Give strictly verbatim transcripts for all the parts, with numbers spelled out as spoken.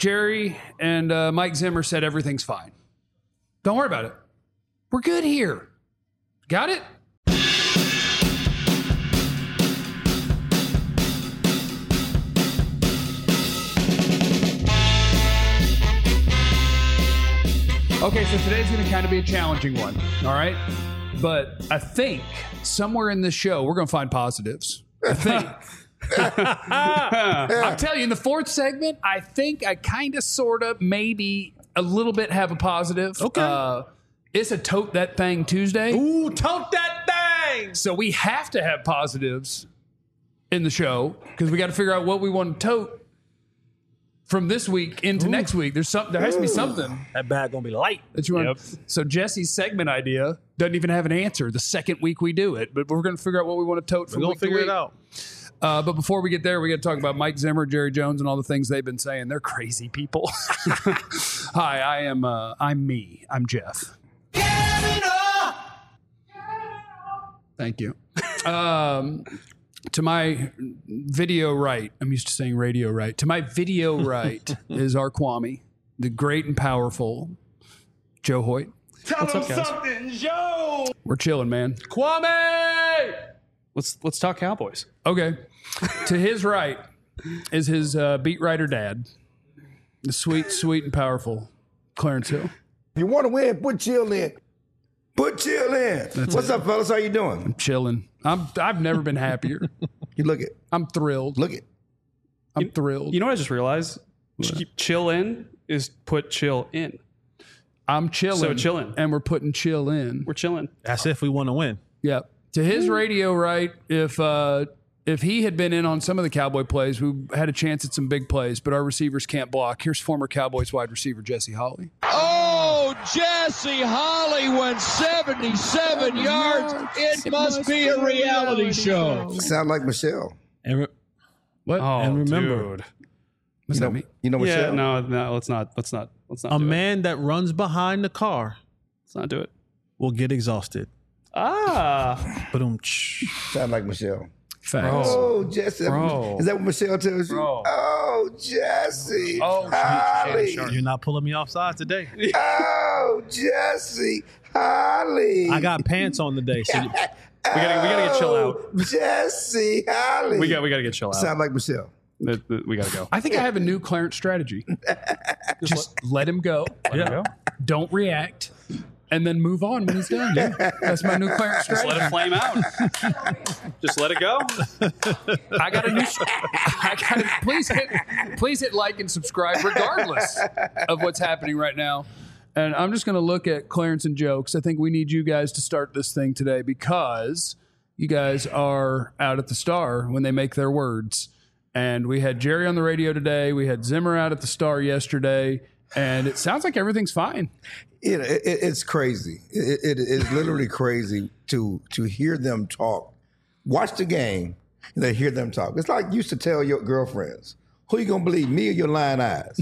Jerry and uh, Mike Zimmer said everything's fine. Don't worry about it. We're good here. Got it? Okay, so today's going to kind of be a challenging one, all right? But I think somewhere in this show, we're going to find positives. I think. I'm telling you, in the fourth segment, I think I kind of, sort of, maybe a little bit have a positive. Okay. Uh, it's a Tote That Thing Tuesday. Ooh, tote that thing! So we have to have positives in the show because we got to figure out what we want to tote from this week into Ooh. next week. There's something. There has to be something. That bag gonna be light. That you want. Yep. So Jesse's segment idea doesn't even have an answer the second week we do it, but we're going to figure out what we want to tote from We're week gonna figure to week. it out. Uh, but before we get there, we got to talk about Mike Zimmer, Jerry Jones, and all the things they've been saying. They're crazy people. Hi, I am. Uh, I'm me. I'm Jeff. Thank you. Um, to my video right, I'm used to saying radio right. To my video right is our Kwame, the great and powerful Joe Hoyt. Tell What's him up, guys? something, Joe. We're chilling, man. Kwame! Let's let's talk Cowboys. Okay. To his right is his uh, beat writer dad, the sweet, sweet, and powerful Clarence Hill. If you want to win, put chill in. Put chill in. That's What's it. up, fellas? How you doing? Chilling. I'm. I've never been happier. You look it. I'm thrilled. Look it. I'm thrilled. You know what I just realized? Ch- chill in is put chill in. I'm chilling. So chilling. And we're putting chill in. We're chilling. That's if we want to win. Yep. To his radio right, if uh, if he had been in on some of the Cowboy plays, we had a chance at some big plays, but our receivers can't block. Here's former Cowboys wide receiver Jesse Holley. Oh, Jesse Holley went seventy-seven yards. It must be a reality show. Sound like Michelle. And, re- What? Oh, and remember, dude. What's You that know, mean? you know Yeah, Michelle? no, no, let's not. Let's not. Let's not. a do man that runs behind the car It. Let's not do it. will get exhausted. Ah, But um, Sound like Michelle. Facts. Oh, Jesse. Bro. Is that what Michelle tells you? Bro. Oh, Jesse. Oh, Holly. you're not pulling me offside today. Oh, Jesse. Holly. I got pants on today. So you- we gotta, we gotta get chill out. Oh, Jesse. Holly. We got, we gotta get chill out. Sound like Michelle. Th- th- We gotta go. I think I have a new Clarence strategy. Just let him go. Let it go. Don't react. And then move on when he's done. Yeah. That's my new Clarence Just strategy. let it flame out. Just let it go. I got a new. I got to please hit, please hit like and subscribe, regardless of what's happening right now. And I'm just going to look at Clarence and Joe because I think we need you guys to start this thing today because you guys are out at the Star when they make their words. And we had Jerry on the radio today. We had Zimmer out at the Star yesterday, and it sounds like everything's fine. You know, it, it, it's crazy. It, it is literally crazy to to hear them talk. Watch the game and then hear them talk. It's like you used to tell your girlfriends, who you gonna believe, me or your lying eyes?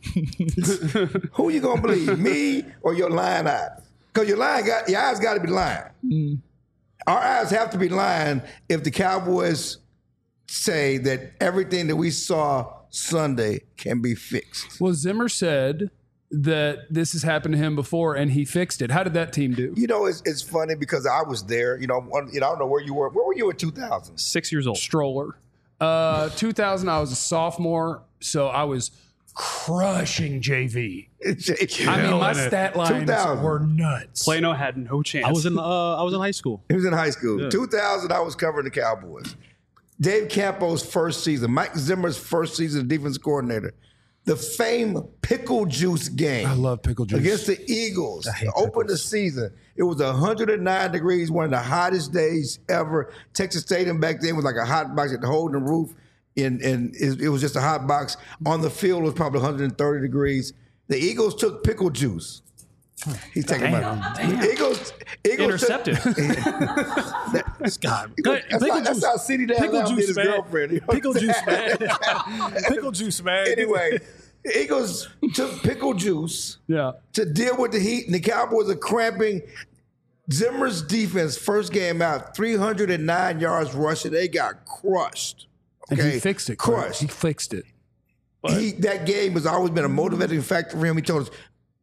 Who you gonna believe, me or your lying eyes? Because your lying got your eyes got to be lying. Mm. Our eyes have to be lying if the Cowboys say that everything that we saw Sunday can be fixed. Well, Zimmer said that this has happened to him before and he fixed it. How did that team do? You know, it's it's funny because I was there. You know, one, you know, I don't know where you were. Where were you in two thousand? Six years old. Stroller. Uh, two thousand, I was a sophomore, so I was crushing J V. I mean, my stat lines two thousand were nuts. Plano had no chance. I was in uh, I was in high school. He was in high school. Yeah. two thousand, I was covering the Cowboys. Dave Campo's first season, Mike Zimmer's first season as defense coordinator. The famed pickle juice game. I love pickle juice. Against the Eagles. To open the season. It was one hundred nine degrees, one of the hottest days ever. Texas Stadium back then was like a hot box at the hole in the roof. And, and it, it was just a hot box. On the field, it was probably one hundred thirty degrees. The Eagles took pickle juice. He's taking my Eagles. Eagles intercepted. Took, that, God, Eagles, that's, pickle how, that's juice. how C D Dad Pickle did juice, his man. girlfriend. You know what Pickle I'm juice, saying? man. Pickle juice, man. Anyway, the Eagles took pickle juice Yeah. to deal with the heat, and the Cowboys are cramping. Zimmer's defense, first game out, three hundred nine yards rushing. They got crushed. Okay? And he fixed it. Clarence. Crushed. He fixed it. he that game has always been a motivating factor for him. He told us,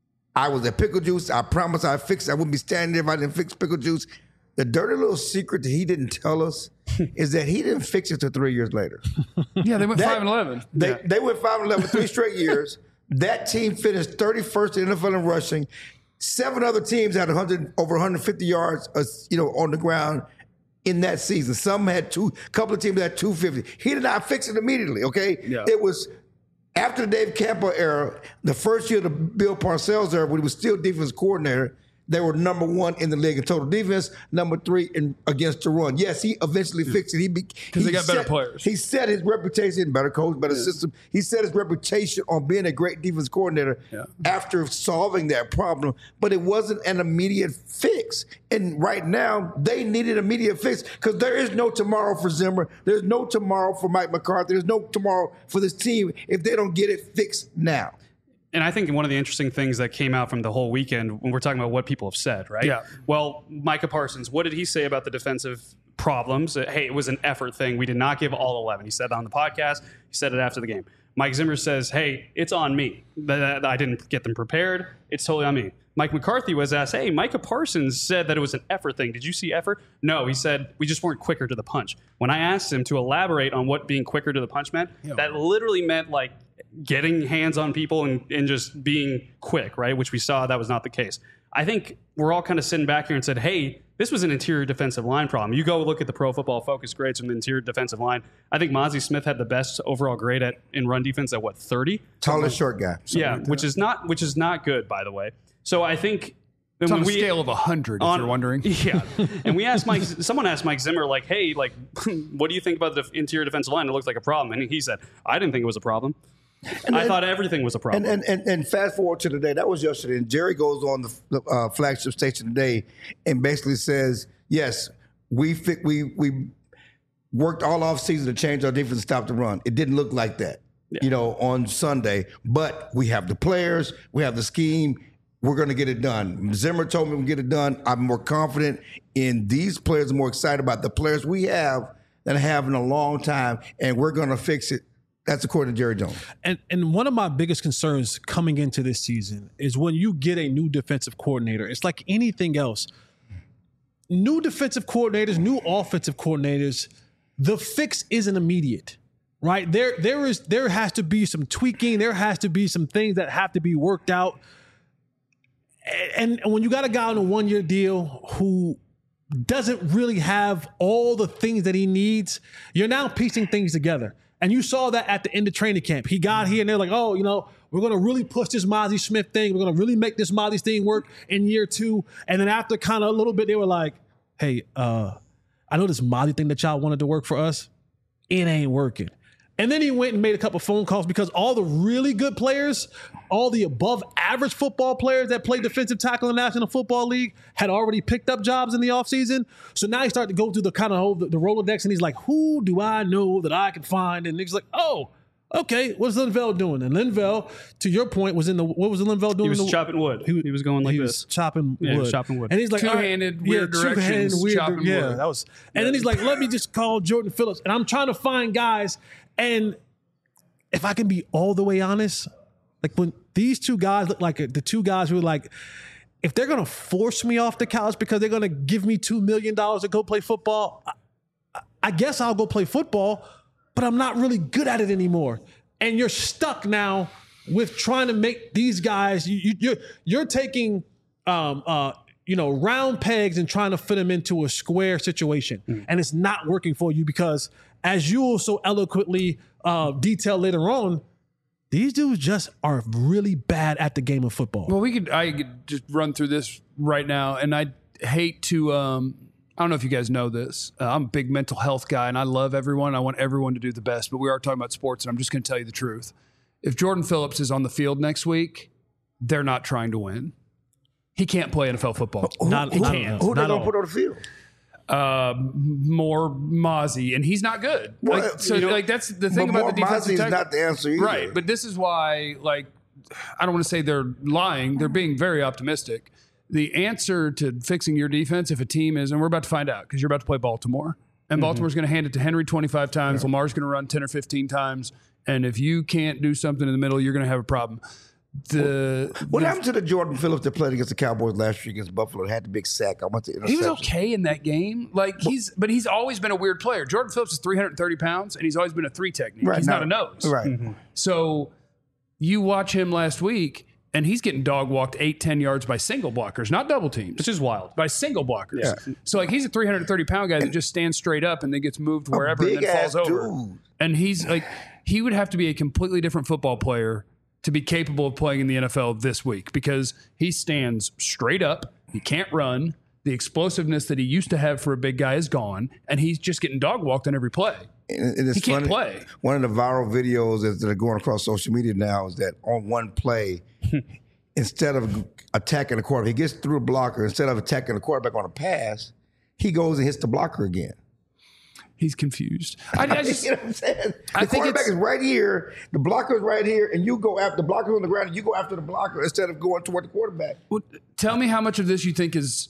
I was at Pickle Juice. I promised I'd fix it. I wouldn't be standing there if I didn't fix Pickle Juice. The dirty little secret that he didn't tell us is that he didn't fix it till three years later. Yeah, they went That- five and eleven. They, yeah. they went five and eleven three straight years. That team finished thirty-first in the N F L in rushing. Seven other teams had one hundred over one hundred fifty yards, uh, you know, on the ground in that season. Some had two. A couple of teams had two fifty. He did not fix it immediately. Okay, Yeah. it was after the Dave Campo era, the first year of the Bill Parcells era, when he was still defense coordinator. They were number one in the league in total defense, number three in against the run. Yes, he eventually fixed it. He because they got better players. He set his reputation, better coach, better system. He set his reputation on being a great defense coordinator Yeah. after solving that problem. But it wasn't an immediate fix. And right now, they needed immediate fix because there is no tomorrow for Zimmer. There's no tomorrow for Mike McCarthy. There's no tomorrow for this team if they don't get it fixed now. And I think one of the interesting things that came out from the whole weekend when we're talking about what people have said, right? Yeah. Well, Micah Parsons, what did he say about the defensive problems? Uh, hey, it was an effort thing. We did not give all eleven. He said that on the podcast. He said it after the game. Mike Zimmer says, hey, it's on me that I didn't get them prepared. It's totally on me. Mike McCarthy was asked, hey, Micah Parsons said that it was an effort thing. Did you see effort? No, he said, we just weren't quicker to the punch. When I asked him to elaborate on what being quicker to the punch meant, Yeah. that literally meant like getting hands on people and, and just being quick, right? Which we saw that was not the case. I think we're all kind of sitting back here and said, hey, this was an interior defensive line problem. You go look at the Pro Football Focus grades from the interior defensive line. I think Mozzie Smith had the best overall grade at in run defense at what, thirty? Tallest short guy. Yeah, which is not which is not good, by the way. So I think It's on when a we- scale of one hundred, if on- you're wondering. Yeah. And we asked Mike, someone asked Mike Zimmer, like, hey, like, what do you think about the interior defensive line? It looks like a problem. And he said, I didn't think it was a problem. And I then- thought everything was a problem. And, and and and fast forward to today. That was yesterday. And Jerry goes on the, the uh, flagship station today and basically says, "Yes, we fi- we we worked all off season to change our defense and stop the run. It didn't look like that, you know, on Sunday. But we have the players, we have the scheme. We're going to get it done. Zimmer told me we'll get it done. I'm more confident in these players. I'm more excited about the players we have than I have in a long time, and we're going to fix it." That's according to Jerry Jones. And and one of my biggest concerns coming into this season is when you get a new defensive coordinator, it's like anything else. New defensive coordinators, new offensive coordinators, the fix isn't immediate, right? There there is there has to be some tweaking, there has to be some things that have to be worked out. And, and when you got a guy on a one-year deal who doesn't really have all the things that he needs, you're now piecing things together. And you saw that at the end of training camp. He got here and they're like, oh, you know, we're going to really push this Mozzie Smith thing. We're going to really make this Mozzie thing work in year two. And then after kind of a little bit, they were like, hey, uh, I know this Mozzie thing that y'all wanted to work for us. It ain't working. And then he went and made a couple phone calls because all the really good players, all the above average football players that played defensive tackle in the National Football League had already picked up jobs in the offseason. So now he started to go through the kind of whole, the, the Rolodex, and he's like, who do I know that I can find? And he's like, oh, okay, what's Linval doing? And Linval, to your point, was in the, what was Linval doing? he was in the, chopping wood. He, he was going like he this. was chopping Yeah, wood. he was chopping wood. And he's like, all right, Two-handed, weird directions, two-handed, weird, chopping yeah, wood. that was. And then he's like, let me just call Jordan Phillips. And I'm trying to find guys. And if I can be all the way honest, like when these two guys look like the two guys who were like, if they're going to force me off the couch because they're going to give me two million dollars to go play football, I, I guess I'll go play football, but I'm not really good at it anymore. And you're stuck now with trying to make these guys, you, you, you're, you're taking, um, uh, you know, round pegs and trying to fit them into a square situation. Mm. And it's not working for you because, as you will so eloquently uh, detail later on, these dudes just are really bad at the game of football. Well, we could I could just run through this right now, and I hate to. Um, I don't know if you guys know this. Uh, I'm a big mental health guy, and I love everyone. I want everyone to do the best, but we are talking about sports, and I'm just going to tell you the truth. If Jordan Phillips is on the field next week, they're not trying to win. He can't play N F L football. Who, Not- who, not- who they not gonna all. put on the field? Uh, more Mozzie, and he's not good. Well, like, so, you know, like that's the thing but about more the defensive Mozzie is tackle. not the answer either. Right, but this is why, like, I don't want to say they're lying. They're being very optimistic. The answer to fixing your defense, if a team is, and we're about to find out because you're about to play Baltimore, and Baltimore's going to hand it to Henry twenty-five times. Lamar's going to run ten or fifteen times, And if you can't do something in the middle, you're going to have a problem. The What the, happened to the Jordan Phillips that played against the Cowboys last year against Buffalo? Had the big sack. I went to interception. He was okay in that game. Like he's, but he's always been a weird player. Jordan Phillips is three hundred thirty pounds, and he's always been a three technique. Right, he's now- not a nose. Right. Mm-hmm. So you watch him last week, and he's getting dog walked eight, ten yards by single blockers, not double teams. Which is wild. By single blockers. Yeah. So like he's a three hundred thirty pound guy that just stands straight up and then gets moved wherever and big then falls ass over. dude. And he's like, he would have to be a completely different football player to be capable of playing in the N F L this week because he stands straight up. He can't run. The explosiveness that he used to have for a big guy is gone, and he's just getting dog walked on every play. And, and it's He can't funny, play. One of the viral videos that that are going across social media now is that on one play, instead of attacking the quarterback, he gets through a blocker. Instead of attacking the quarterback on a pass, he goes and hits the blocker again. He's confused. I, I just, You know what I'm saying? I The think quarterback it's- is right here, the blocker is right here, and you go after the blocker on the ground, and you go after the blocker instead of going toward the quarterback. well, tell me how much of this you think is,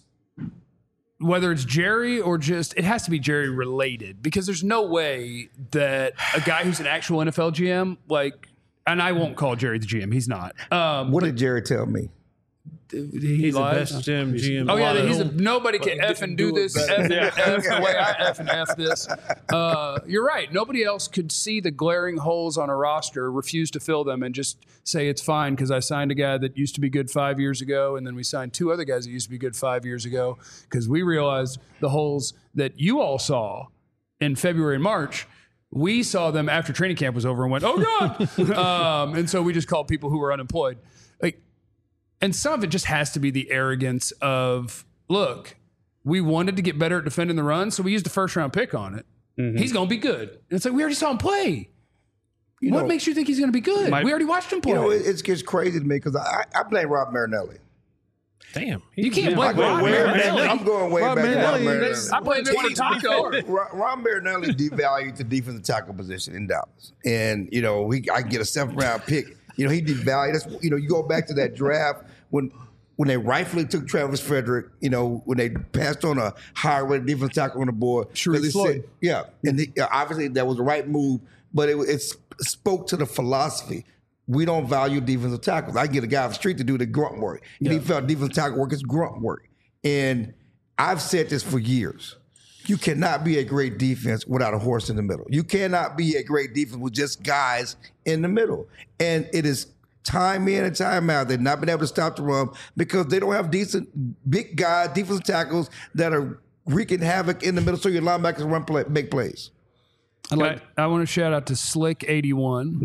whether it's Jerry or just, it has to be Jerry related because there's no way that a guy who's an actual N F L G M, like, and I won't call Jerry the G M, he's not. Um, What did Jerry tell me? he He's the lies. best G M. G M Oh yeah, alive. he's a, nobody can F and do this F and F the way I F and F this. Uh, you're right. Nobody else could see the glaring holes on a roster, refuse to fill them, and just say it's fine because I signed a guy that used to be good five years ago, and then we signed two other guys that used to be good five years ago because we realized the holes that you all saw in February and March. We saw them after training camp was over and went, oh God. um, and so we just called people who were unemployed. Like, and some of it just has to be the arrogance of, look, we wanted to get better at defending the run, so we used a first round pick on it. Mm-hmm. He's going to be good. And it's like, we already saw him play. You what know- makes you think he's going to be good? My- we already watched him play. You know, it, it's, it's crazy to me because I, I blame Rob Marinelli. Damn. you can't Yeah. blame Wait, Rob wait, Marinelli. wait, I'm going way Rob back to Rob Marinelli, Marinelli. that's- I blame him for Taco. Ron, Ron Marinelli devalued the defensive tackle position in Dallas, and you know he I can get a seventh round pick. You know he devalued. That's, you know you go back to that draft when when they rightfully took Travis Frederick. You know when they passed on a higher rated defensive tackle on the board. Sharif Because they Floyd. said- yeah, and the, obviously that was the right move, but it, it spoke to the philosophy. We don't value defensive tackles. I get a guy off the street to do the grunt work. And he felt defensive tackle work is grunt work. And I've said this for years. You cannot be a great defense without a horse in the middle. You cannot be a great defense with just guys in the middle. And it is time in and time out. They've not been able to stop the run because they don't have decent big guys, defensive tackles that are wreaking havoc in the middle so your linebackers run play, make plays. I like. I want to shout out to Slick eighty-one.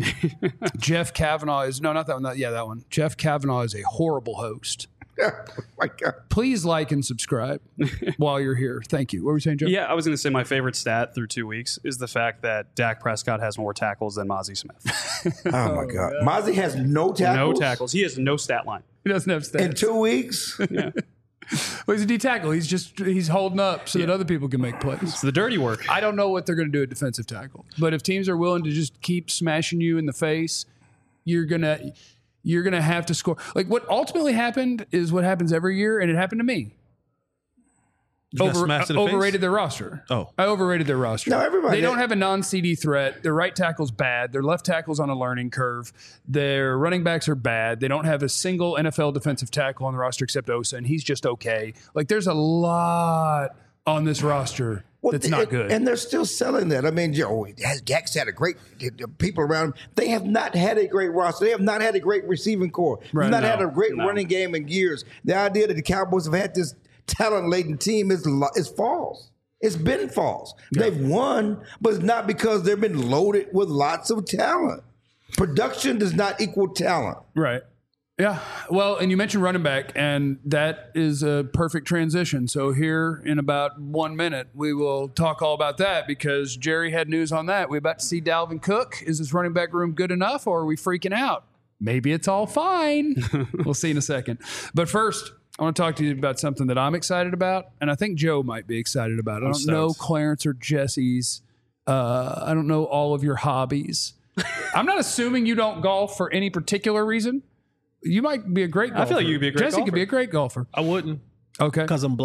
Jeff Kavanaugh is no, not that one. Not, yeah, that one. Jeff Kavanaugh is a horrible host. Oh my God. Please like and subscribe while you're here. Thank you. What were you saying, Joe? Yeah, I was going to say my favorite stat through two weeks is the fact that Dak Prescott has more tackles than Mozzie Smith. Oh my God. Mozzie has no tackles. No tackles. He has no stat line. He doesn't have stats. In two weeks? Well, he's a D tackle. He's just he's holding up so that other people can make plays. It's the dirty work. I don't know what they're going to do at defensive tackle, but if teams are willing to just keep smashing you in the face, you're gonna you're gonna have to score. Like what ultimately happened is what happens every year, and it happened to me. got Over, smashed in the face? overrated their roster. Oh. I overrated their roster. No, everybody- They don't have a non-C D threat. Their right tackle's bad. Their left tackle's on a learning curve. Their running backs are bad. They don't have a single N F L defensive tackle on the roster except Osa, and he's just okay. Like there's a lot on this roster that's not and, good. And they're still selling that. I mean, oh, Dak's had a great the, the people around him. They have not had a great roster. They have not had a great receiving core. Right, They've not no, had a great no. running game in years. The idea that the Cowboys have had this talent-laden team is lo- is false. It's been false. They've won, but it's not because they've been loaded with lots of talent. Production does not equal talent. Right. Yeah. Well, and you mentioned running back, and that is a perfect transition. So here in about one minute, we will talk all about that because Jerry had news on that. We about to see Dalvin Cook. Is this running back room good enough, or are we freaking out? Maybe it's all fine. We'll see in a second. But first, I want to talk to you about something that I'm excited about, and I think Joe might be excited about. I don't stoked. know Clarence or Jesse's. Uh, I don't know all of your hobbies. I'm not assuming you don't golf for any particular reason. You might be a great golfer. I feel like you could be a great Jesse could golfer. be a great golfer. I wouldn't Okay. because I'm black.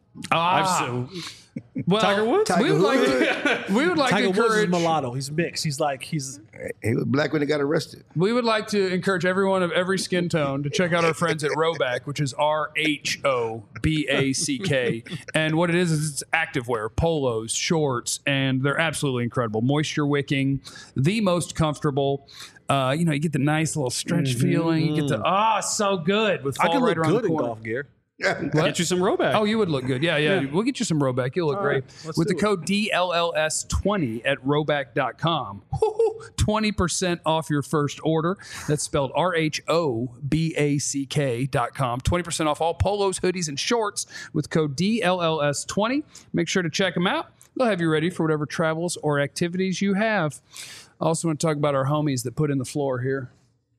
Ah, I've so, well, Tiger Woods? Tiger we would like Woods. to, we would like Tiger to Woods is encourage mulatto. He's mixed. He's like he's He was black when he got arrested. we would like to encourage everyone of every skin tone to check out our friends at Roback, which is R H O B A C K. And what it is is it's activewear, polos, shorts, and they're absolutely incredible. Moisture wicking, the most comfortable. Uh, you know, you get the nice little stretch feeling. You get the ah, so good with I fall can right look around good the in corner. golf gear. get you some Roback. Oh, you would look good. Yeah, yeah. We'll get you some Roback. You'll look great. let's With the do it. code D L L S twenty at roback dot com. twenty percent off your first order. That's spelled R H O B A C K dot com. twenty percent off all polos, hoodies, and shorts with code D L L S twenty. Make sure to check them out. They'll have you ready for whatever travels or activities you have. I also want to talk about our homies that put in the floor here.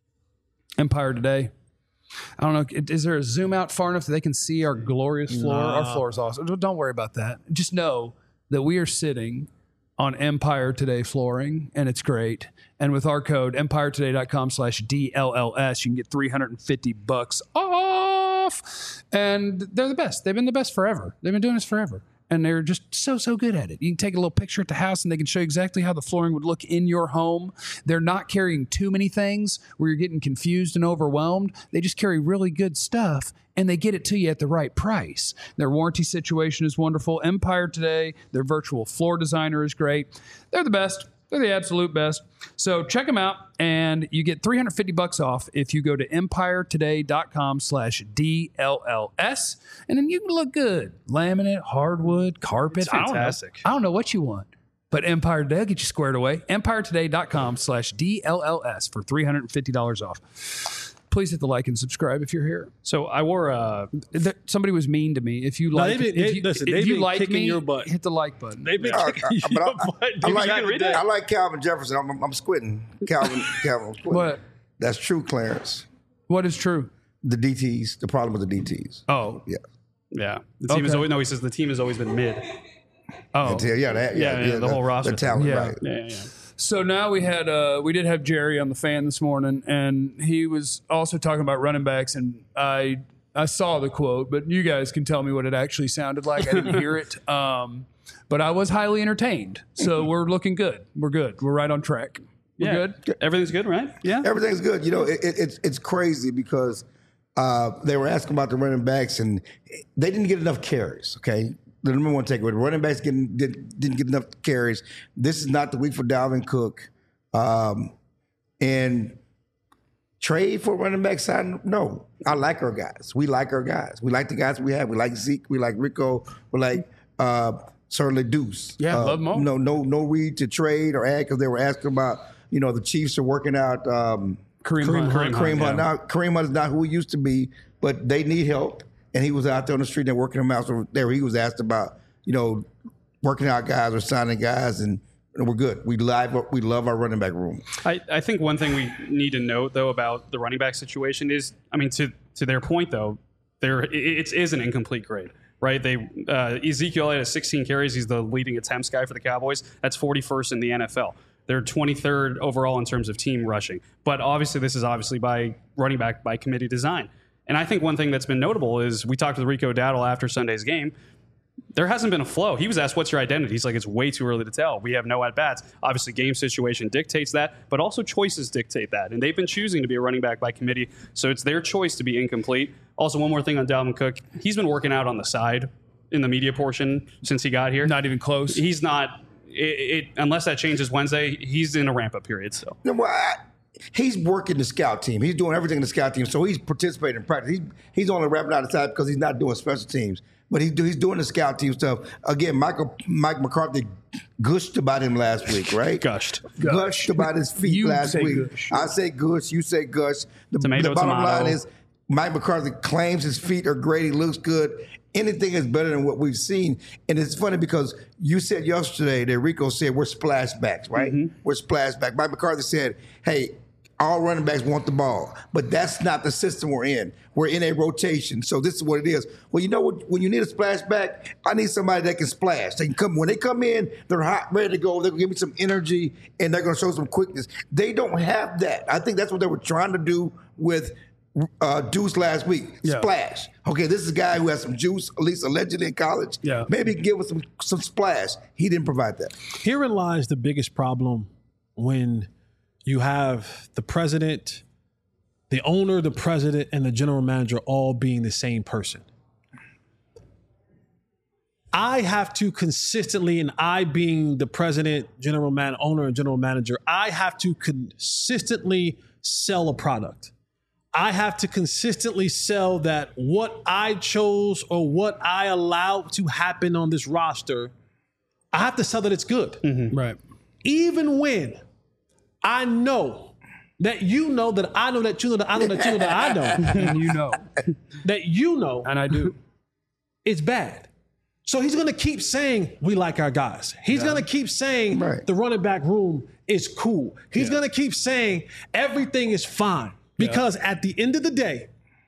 Empire Today. I don't know. Is there a zoom out far enough that they can see our glorious floor? Our floor is awesome. Don't worry about that. Just know that we are sitting on Empire Today flooring, and it's great. And with our code, empire today dot com slash D L L S, you can get three hundred fifty bucks off. And they're the best. They've been the best forever. They've been doing this forever. And they're just so, so good at it. You can take a little picture at the house and they can show you exactly how the flooring would look in your home. They're not carrying too many things where you're getting confused and overwhelmed. They just carry really good stuff and they get it to you at the right price. Their warranty situation is wonderful. Empire Today, their virtual floor designer is great. They're the best. They're the absolute best. So check them out, and you get three hundred fifty bucks off if you go to empire today dot com slash D L L S, and then you can look good. Laminate, hardwood, carpet. It's I don't know. fantastic. I don't know what you want, but Empire Today will get you squared away. empire today dot com slash D L L S for three hundred fifty dollars off. Please hit the like and subscribe if you're here. So I wore a. There- Somebody was mean to me. If you like, they've been- if they- you, listen, if they've you been like kicking me, your butt. hit the like button. They've been Uh, kicking uh, but I, your butt. I, I dude. like, you gotta read that. I like Calvin Jefferson. I'm, I'm, I'm squinting. Calvin, Calvin, I'm squinting. What? That's true, Clarence. What is true? The D Ts, the problem with the D Ts. Oh, Yeah. Yeah. The team has Okay. always, no, he says the team has always been mid. oh. Yeah, yeah, that, yeah, Yeah, yeah, the whole roster. The talent, Yeah. right. Yeah, yeah. So now we had uh, we did have Jerry on the fan this morning, and he was also talking about running backs, and I I saw the quote, but you guys can tell me what it actually sounded like. I didn't hear it, um, but I was highly entertained. So we're looking good. We're good. We're right on track. We're Yeah. good. Everything's good, right? Yeah. Everything's good. You know, it, it, it's it's crazy because uh, they were asking about the running backs and they didn't get enough carries. Okay, the number one takeaway: the running backs getting, did, didn't get enough carries. This is not the week for Dalvin Cook, um, and trade for running back side. No, I like our guys. We like our guys. We like the guys we have. We like Zeke. We like Rico. We like uh, certainly Deuce. Yeah, uh, love them all. No, no, no read to trade or add because they were asking about. You know, the Chiefs are working out. Um, Kareem Kareem, Hunt. Hunt. Kareem Hunt. Now, Kareem Hunt is not who he used to be, but they need help. And he was out there on the street and working him out. So there he was asked about, you know, working out guys or signing guys, and we're good. We live, we love our running back room. I, I think one thing we need to note, though, about the running back situation is, I mean, to to their point, though, there it, it is an incomplete grade, right? They uh, Ezekiel Elliott has sixteen carries. He's the leading attempts guy for the Cowboys. That's forty-first in the N F L. They're twenty-third overall in terms of team rushing. But obviously, this is obviously by running back by committee design. And I think one thing that's been notable is we talked with Rico Dowdle after Sunday's game. There hasn't been a flow. He was asked, what's your identity? He's like, it's way too early to tell. We have no at-bats. Obviously, game situation dictates that, but also choices dictate that. And they've been choosing to be a running back by committee, so it's their choice to be incomplete. Also, one more thing on Dalvin Cook. He's been working out on the side in the media portion since he got here. Not even close. He's not, it, it, unless that changes Wednesday, he's in a ramp-up period. So You know, well, I- he's working the scout team. He's doing everything in the scout team. So he's participating in practice. He's, he's only wrapping out the side because he's not doing special teams. But he's, do, he's doing the scout team stuff. Again, Michael Mike McCarthy gushed about him last week, right? gushed. Gushed about his feet You last say week. gush. I say gush, you say gush. The, Tomato, the bottom tomato. line is Mike McCarthy claims his feet are great. He looks good. Anything is better than what we've seen. And it's funny because you said yesterday that Rico said we're splashbacks, right? Mm-hmm. We're splashback. Mike McCarthy said, hey, all running backs want the ball, but that's not the system we're in. We're in a rotation, so this is what it is. Well, you know what? When you need a splashback, I need somebody that can splash. They can come when they come in, they're hot, ready to go. They're gonna give me some energy, and they're gonna show some quickness. They don't have that. I think that's what they were trying to do with uh, Deuce last week. Yeah. Splash. Okay, this is a guy who has some juice, at least allegedly in college. Yeah. Maybe he can give us some, some splash. He didn't provide that. Herein lies the biggest problem when you have the president, the owner, the president, and the general manager all being the same person. I have to consistently, and I being the president, general man, owner, and general manager, I have to consistently sell a product. I have to consistently sell that what I chose or what I allowed to happen on this roster, I have to sell that it's good. Mm-hmm. Right. Even when I know that you know that I know that you know that I know that you know that I know And you know. that you know And I do. it's bad. So he's going to keep saying, we like our guys. He's Yeah. going to keep saying Right. the running back room is cool. He's Yeah. going to keep saying everything is fine. Because at the end of the day,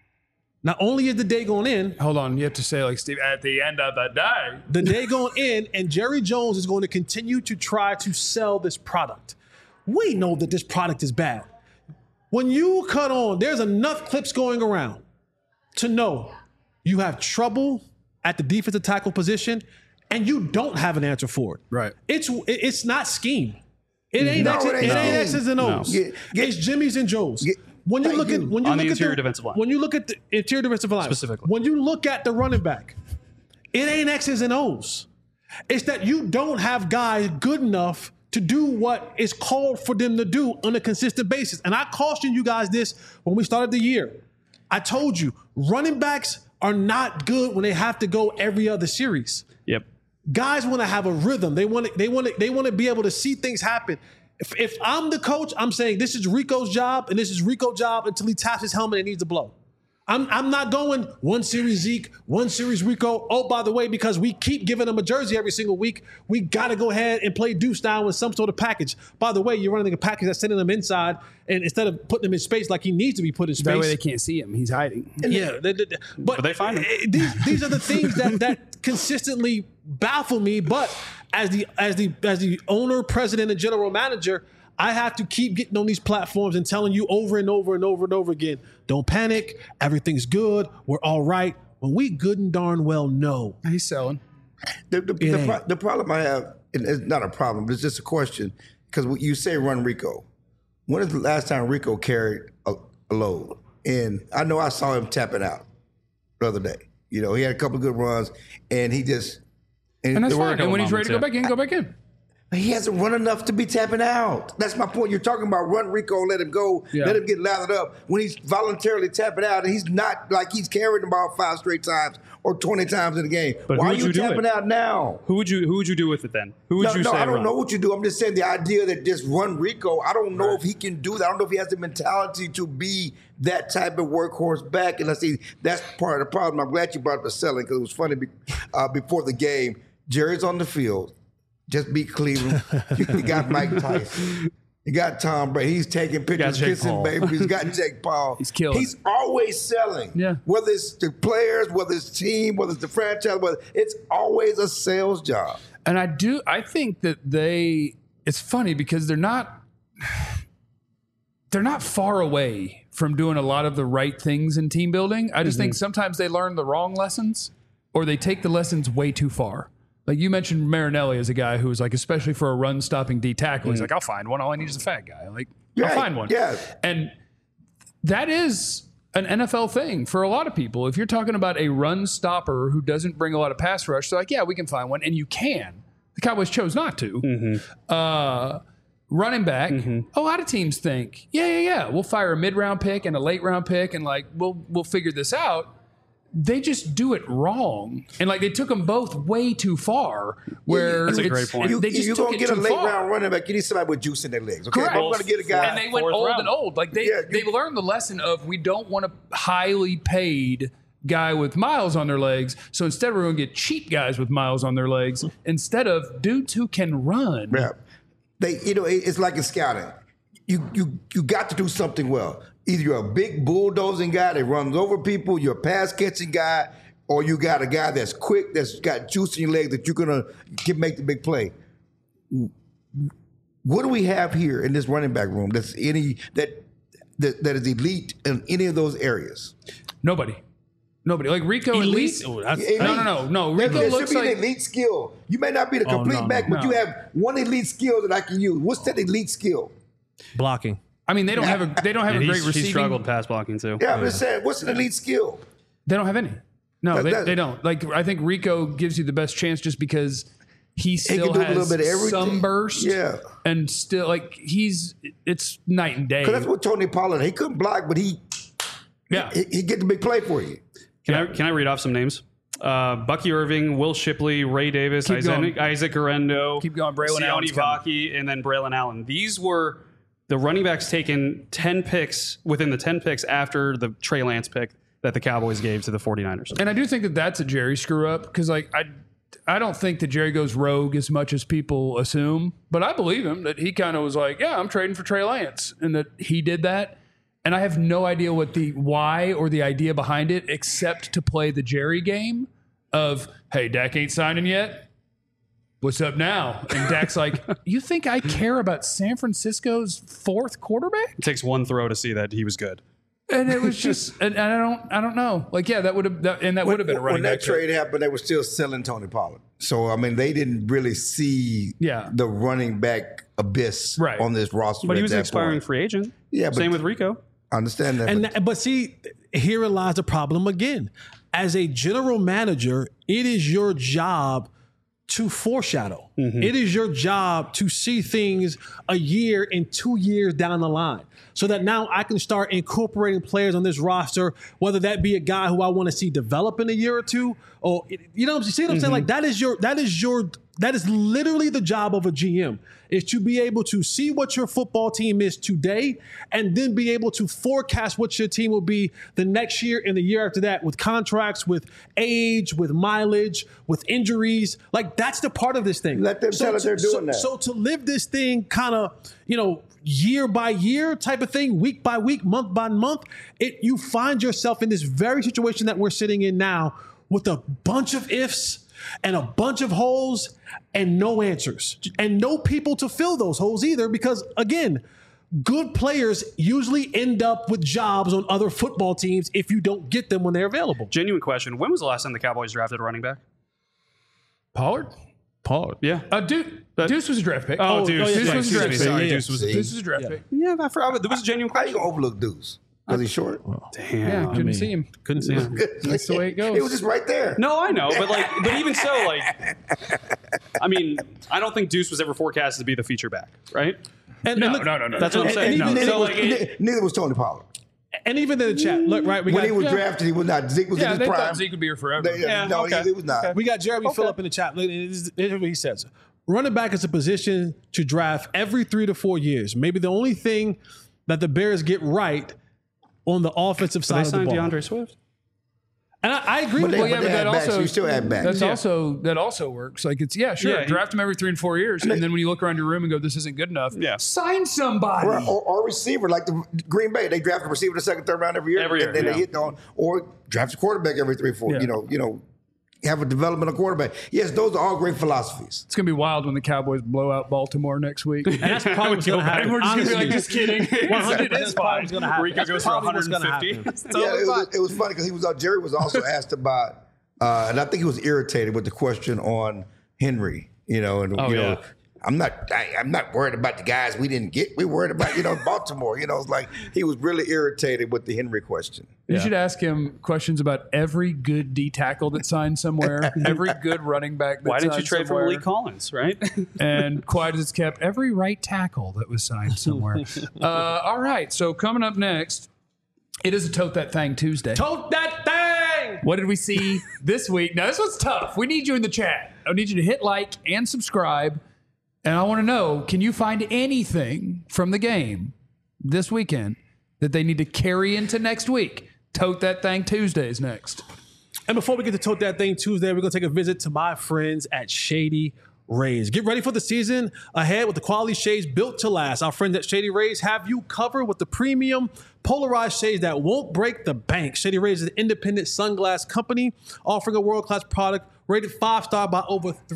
not only is the day going in, Hold on. You have to say, like, Steve, at the end of the day. the day going in, and Jerry Jones is going to continue to try to sell this product. We know that this product is bad. When you cut on, there's enough clips going around to know you have trouble at the defensive tackle position and you don't have an answer for it. Right. It's it's not scheme. It ain't No, X's, it it ain't ain't scheme. X's and O's. Get- get- it's Jimmy's and Joe's. Get- when you Thank look at you. when you On the look interior at the, defensive line. when you look at the interior defensive line Specifically. when you look at the running back, it ain't X's and O's. It's that you don't have guys good enough to do what is called for them to do on a consistent basis. And I cautioned you guys this when we started the year. I told you, running backs are not good when they have to go every other series. Yep. Guys want to have a rhythm. They want to, they want to, they want to be able to see things happen. If, if I'm the coach, I'm saying this is Rico's job and this is Rico's job until he taps his helmet and needs to blow. I'm, I'm not going one series Zeke, one series Rico. Oh, by the way, because we keep giving him a jersey every single week, we got to go ahead and play Deuce down with some sort of package. By the way, you're running a package that's sending him inside, and instead of putting him in space like he needs to be put in space. That way they can't see him. He's hiding. Yeah, they- they- but, But they find him. eh, These, these are the things that that consistently baffle me. But as the as the as the owner, president, and general manager, I have to keep getting on these platforms and telling you over and over and over and over again, don't panic. Everything's good. We're all right. When we good and darn well know. He's selling. The, the, It the, ain't. pro- the problem I have, and it's not a problem, but it's just a question, because you say run Rico. When is the last time Rico carried a, a load? And I know I saw him tapping out the other day. You know, he had a couple of good runs, and he just... And that's There were a fine. And couple when he's ready to go moments, back in, go back in. He hasn't run enough to be tapping out. That's my point. You're talking about run Rico, let him go, Yeah. let him get lathered up. When he's voluntarily tapping out, and he's not like he's carrying the ball five straight times or twenty times in the game. But Why who are would you you do tapping it? out now? Who would you Who would you do with it then? Who would No, you no, say I don't run? know what you do. I'm just saying the idea that just run Rico, I don't know if he can do that. I don't know if he has the mentality to be that type of workhorse back. And I see that's part of the problem. I'm glad you brought up the selling, because it was funny be, uh, before the game. Jerry's on the field. Just beat Cleveland. You, you got Mike Tyson. You got Tom Brady. He's taking pictures, Jake kissing Paul. babies. He's got Jake Paul. He's killing He's always selling. Yeah. Whether it's the players, whether it's team, whether it's the franchise, whether it's always a sales job. And I do, I think that they, it's funny because they're not, they're not far away from doing a lot of the right things in team building. I just think sometimes they learn the wrong lessons or they take the lessons way too far. Like you mentioned Marinelli as a guy who was like, especially for a run stopping D tackle, he's like, I'll find one. All I need is a fat guy. Like, Yeah, I'll find one. yeah. And that is an N F L thing for a lot of people. If you're talking about a run stopper who doesn't bring a lot of pass rush, they're like, yeah, we can find one. And you can. The Cowboys chose not to. Mm-hmm. Uh, running back, a lot of teams think, yeah, yeah, yeah, we'll fire a mid round pick and a late round pick and like, we'll, we'll figure this out. They just do it wrong. And like they took them both way too far where That's a it's- great point. You, they just you're took going it to get a too late far. round running back. You need somebody with juice in their legs. Okay, Correct. I'm going to get a guy. And they went Fourth old round. and old. Like they, Yeah, you- they learned the lesson of we don't want a highly paid guy with miles on their legs. So instead we're going to get cheap guys with miles on their legs instead of dudes who can run. Yeah. They, you know, it- it's like in scouting. You, you, you got to do something well. Either you're a big bulldozing guy that runs over people, you're a pass catching guy, or you got a guy that's quick, that's got juice in your legs that you're gonna get, make the big play. What do we have here in this running back room? That's any that that, that is elite in any of those areas? Nobody. Nobody. Like Rico at Elite? least. Oh, that's- Elite. No, no, no, no. There, Rico there looks should be like an elite skill. You may not be the Oh, complete no, back, no, but no. you have one elite skill that I can use. What's that elite skill? Blocking. I mean, they don't have a they don't have And a great he's, receiving. he struggled pass blocking too. Yeah, I'm just saying, what's an elite skill? They don't have any. No, That- they, that- they don't. Like I think Rico gives you the best chance just because he He still can do a has little bit of everything. some burst. Yeah. And still like he's it's night and day. Because that's what Tony Pollard, he couldn't block, but he Yeah. he, he get the big play for you. Can I can I read off some names? Uh, Bucky Irving, Will Shipley, Ray Davis, Keep Isaac, going. Isaac Guerrero, Keep going. Braylon Sione Allen's coming. Vaki, and then Braylon Allen. These were the running backs taken ten picks within the ten picks after the Trey Lance pick that the Cowboys gave to the 49ers. And I do think that that's a Jerry screw up because like I I don't think that Jerry goes rogue as much as people assume, but I believe him that he kind of was like, yeah, I'm trading for Trey Lance, and that he did that. And I have no idea what the why or the idea behind it, except to play the Jerry game of, hey, Dak ain't signing yet. What's up now? And Dak's like, you think I care about San Francisco's fourth quarterback? It takes one throw to see that he was good. And it was just, and, and I don't, I don't know. Like, yeah, that would have, that, and that would have been a running When that back pick. trade happened, they were still selling Tony Pollard. So I mean, they didn't really see Yeah. the running back abyss Right. on this roster. But at he was that an expiring point. free agent. Yeah, but- Same with Rico. I understand that. And but that- but see, here lies the problem again. As a general manager, it is your job to foreshadow. It is your job to see things a year and two years down the line, so that now I can start incorporating players on this roster, whether that be a guy who I want to see develop in a year or two, or you know, you see what I'm saying? Like that is your that is your that is literally the job of a G M, is to be able to see what your football team is today and then be able to forecast what your team will be the next year and the year after that, with contracts, with age, with mileage, with injuries. Like that's the part of this thing. Let them tell us to- they're doing so, that. So to live this thing kind of, you know, year by year type of thing, week by week, month by month, it you find yourself in this very situation that we're sitting in now with a bunch of ifs and a bunch of holes and no answers and no people to fill those holes either, because again, good players usually end up with jobs on other football teams if you don't get them when they're available. Genuine question. When was the last time the Cowboys drafted a running back? Pollard? Paul. Yeah. Uh, Deuce, Deuce was a draft pick. Oh, Oh, Deuce. yeah, Deuce yeah, was a yeah, draft yeah, pick. Sorry, yeah. Deuce was a See? Deuce was a draft pick. Yeah, I forgot. There was a genuine how you question. gonna overlook Deuce? Because he's short. Damn. Yeah, couldn't mean, see him. Couldn't see. him. That's the way it goes. It was just right there. No, I know, but like, but even so, like, I mean, I don't think Deuce was ever forecasted to be the feature back, right? And, No, and look- no, no, no. That's what I'm And- saying. and No. even- Neither, So was, like, it- neither was Tony Pollard. And even in the chat, look, right? We When got, he was yeah. drafted, he was not. Zeke was yeah, in they his prime. thought Zeke would be here forever. They- Yeah, no, okay. he, he was not. We got Jeremy Phillip in the chat. Look, this is this is what he says. Running back is a position to draft every three to four years. Maybe the only thing that the Bears get right on the offensive They side of the signed ball. DeAndre Swift. And I, I agree But with they- that. Well, yeah, but but they that add backs. also You still add backs. That's Yeah. also that also works. Like it's yeah, sure. Yeah, he- draft them every three and four years, and then when you look around your room and go, "This isn't good enough." Yeah. sign somebody. Or, or, or receiver, like the Green Bay, they draft a receiver in the second, third round every year. Every year, and then yeah. they hit on, or draft a quarterback every three, four. Yeah. You know, you know, have a developmental quarterback. Yes, those are all great philosophies. It's gonna be wild when the Cowboys blow out Baltimore next week. And that's probably what's going to happen. We're just gonna be like, Honestly. just kidding. one hundred percent It is probably what's going to happen. Rico That's goes for probably what's gonna one hundred happen. fifty. Yeah, it was, it was funny because he was. Uh, Jerry was also asked about, uh, and I think he was irritated with the question on Henry. You know, and Oh, you yeah. know, I'm not. I, I'm not worried about the guys we didn't get. We worried about you know Baltimore. You know, it's like he was really irritated with the Henry question. You should ask him questions about every good D tackle that signed somewhere, every good running back that Why didn't you signed trade for somewhere, Malik Collins, right? and quiet as it's kept, every right tackle that was signed somewhere. uh, all right, so coming up next, it is a Tote That Thing Tuesday. Tote that thing! What did we see this week? Now, this one's tough. We need you in the chat. I need you to hit like and subscribe. And I want to know, can you find anything from the game this weekend that they need to carry into next week? Tote That Thing Tuesdays next. And before we get to Tote That Thing Tuesday, we're going to take a visit to my friends at Shady Rays. Get ready for the season ahead with the quality shades built to last. Our friends at Shady Rays have you covered with the premium polarized shades that won't break the bank. Shady Rays is an independent sunglass company offering a world-class product rated five-star by over three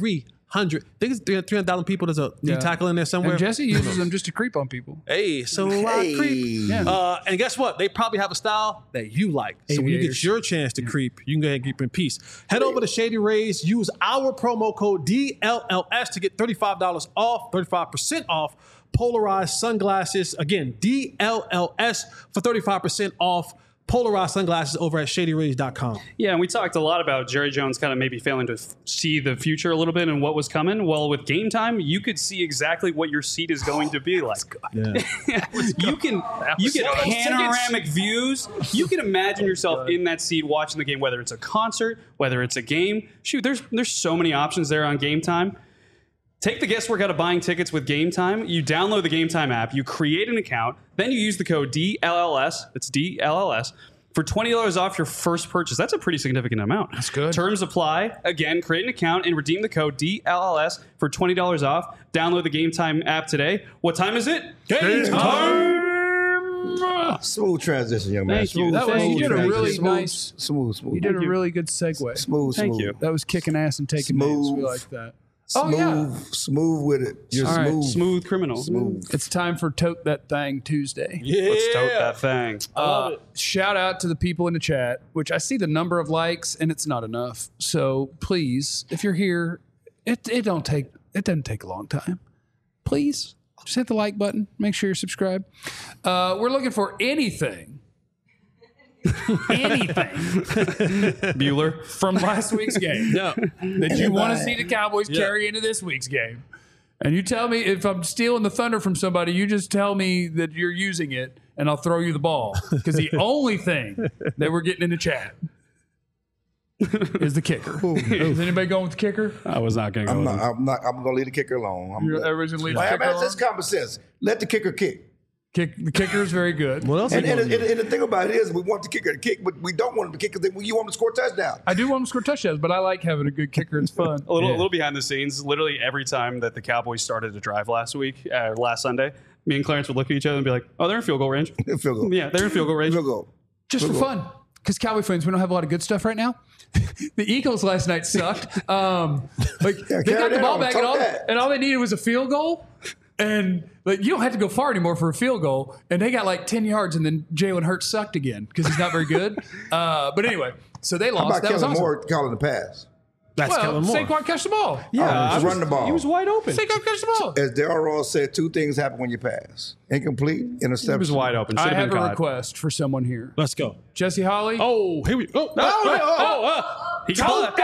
hundred. I think it's three hundred thousand people. There's a D Yeah. tackle in there somewhere. And Jesse uses them just to creep on people. Hey, so I Hey. creep. Yeah. Uh, and guess what? They probably have a style that you like. So when you get Aviators. your chance to creep, you can go ahead and keep in peace. Head over to Shady Rays. Use our promo code D L L S to get thirty-five dollars off, thirty-five percent off polarized sunglasses. Again, D L L S for thirty-five percent off polarized sunglasses over at shady rays dot com. Yeah, and we talked a lot about Jerry Jones kind of maybe failing to f- see the future a little bit and what was coming. Well, with Game Time, you could see exactly what your seat is going to be like. Yeah. you can you get Sell those panoramic views. You can imagine yourself in that seat watching the game, whether it's a concert, whether it's a game. Shoot, there's there's so many options there on Game Time. Take the guesswork out of buying tickets with Game Time. You download the Game Time app, you create an account, then you use the code D L L S, that's D L L S, for twenty dollars off your first purchase. That's a pretty significant amount. That's good. Terms apply. Again, create an account and redeem the code D L L S for twenty dollars off. Download the Game Time app today. What time is it? Game Smooth transition, young man. Thank you. Smooth, That was- smooth you did a transition. really smooth, nice- Smooth, smooth. You did a you. really good segue. Smooth, Thank smooth. you. That was kicking ass and taking names. We Smooth. like that. Smooth, Oh, yeah. smooth with it. You're All right. smooth. Smooth criminal. Smooth. It's time for Tote That Thing Tuesday. Yeah. Let's tote that thing. Uh, shout out to the people in the chat, which I see the number of likes and it's not enough. So please, if you're here, it it don't take it doesn't take a long time. Please just hit the like button. Make sure you're subscribed. Uh, we're looking for anything, anything Bueller. from last week's game Yeah. that you want to see the Cowboys carry into this week's game. And you tell me if I'm stealing the thunder from somebody, you just tell me that you're using it and I'll throw you the ball. Because the only thing that we're getting in the chat is the kicker. Is anybody going with the kicker? I was not going to go I'm with not, him. I'm not. I'm gonna leave the kicker alone. I'm You're gonna- originally the Well, I kicker. mean, that's on? just common sense. Let the kicker kick. Kick, the kicker is very good. What else? And, are you and, gonna and, do? and the thing about it is, we want the kicker to kick, but we don't want him to kick because you want him to score a touchdown. I do want to score touchdowns, but I like having a good kicker. It's fun. A little, a little behind the scenes. Literally every time that the Cowboys started to drive last week, uh, last Sunday, me and Clarence would look at each other and be like, "Oh, they're in field goal range." Field goal. Yeah, they're in field goal range. Field goal. Just for fun. Because Cowboy fans, we don't have a lot of good stuff right now. The Eagles last night sucked. Um, like Yeah, they carry got the that ball on. back, and Talk all, that. and all they needed was a field goal. And like you don't have to go far anymore for a field goal. And they got like ten yards, and then Jalen Hurts sucked again because he's not very good. Uh, but anyway, so they How lost. about That was Kellen awesome. Moore calling the pass? That's Well, Kellen Moore. Saquon catch the ball. Yeah, just run the ball. He was wide open. Saquon catch the ball. As Darryl Ross said, two things happen when you pass: incomplete, interception. He was wide open. Should I have have been a caught. request for someone here. Let's go. Jesse Holly. Oh, here we go. Oh, oh, oh, oh, oh, oh. He called Tote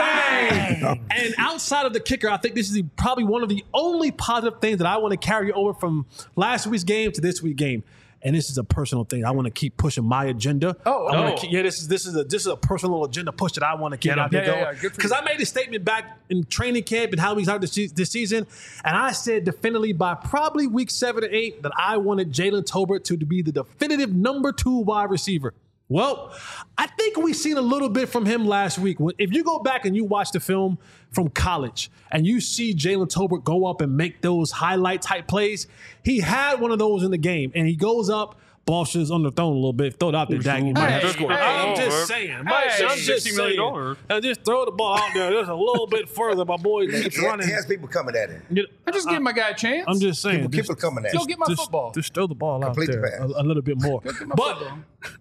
that thing. And outside of the kicker, I think this is the, probably one of the only positive things that I want to carry over from last week's game to this week's game. And this is a personal thing. I want to keep pushing my agenda. Oh, I wanna oh. keep- yeah. This is this is a this is a personal agenda push that I want to get Yeah, out yeah, there yeah, going. yeah. Good for Because you. I made a statement back in training camp and how we started this, se- this season, and I said definitively by probably week seven or eight that I wanted Jalen Tolbert to be the definitive number two wide receiver. Well, I think we seen a little bit from him last week. If you go back and you watch the film from college and you see Jalen Tolbert go up and make those highlight type plays, he had one of those in the game, and he goes up. Ball should underthrown a little bit. Throw it out there, Dak. You might have to Hey, score. hey, I'm hey, just saying. hey, I'm just sixty million saying. dollars. And just throw the ball out there just a little bit further. My boy keeps He, running. he has people coming at him. You know, I just give my guy a chance. I'm just saying. People, just- people coming at Go him. get my just, football. Just throw the ball Complete out the there pass. a, a little bit more. Get my But football.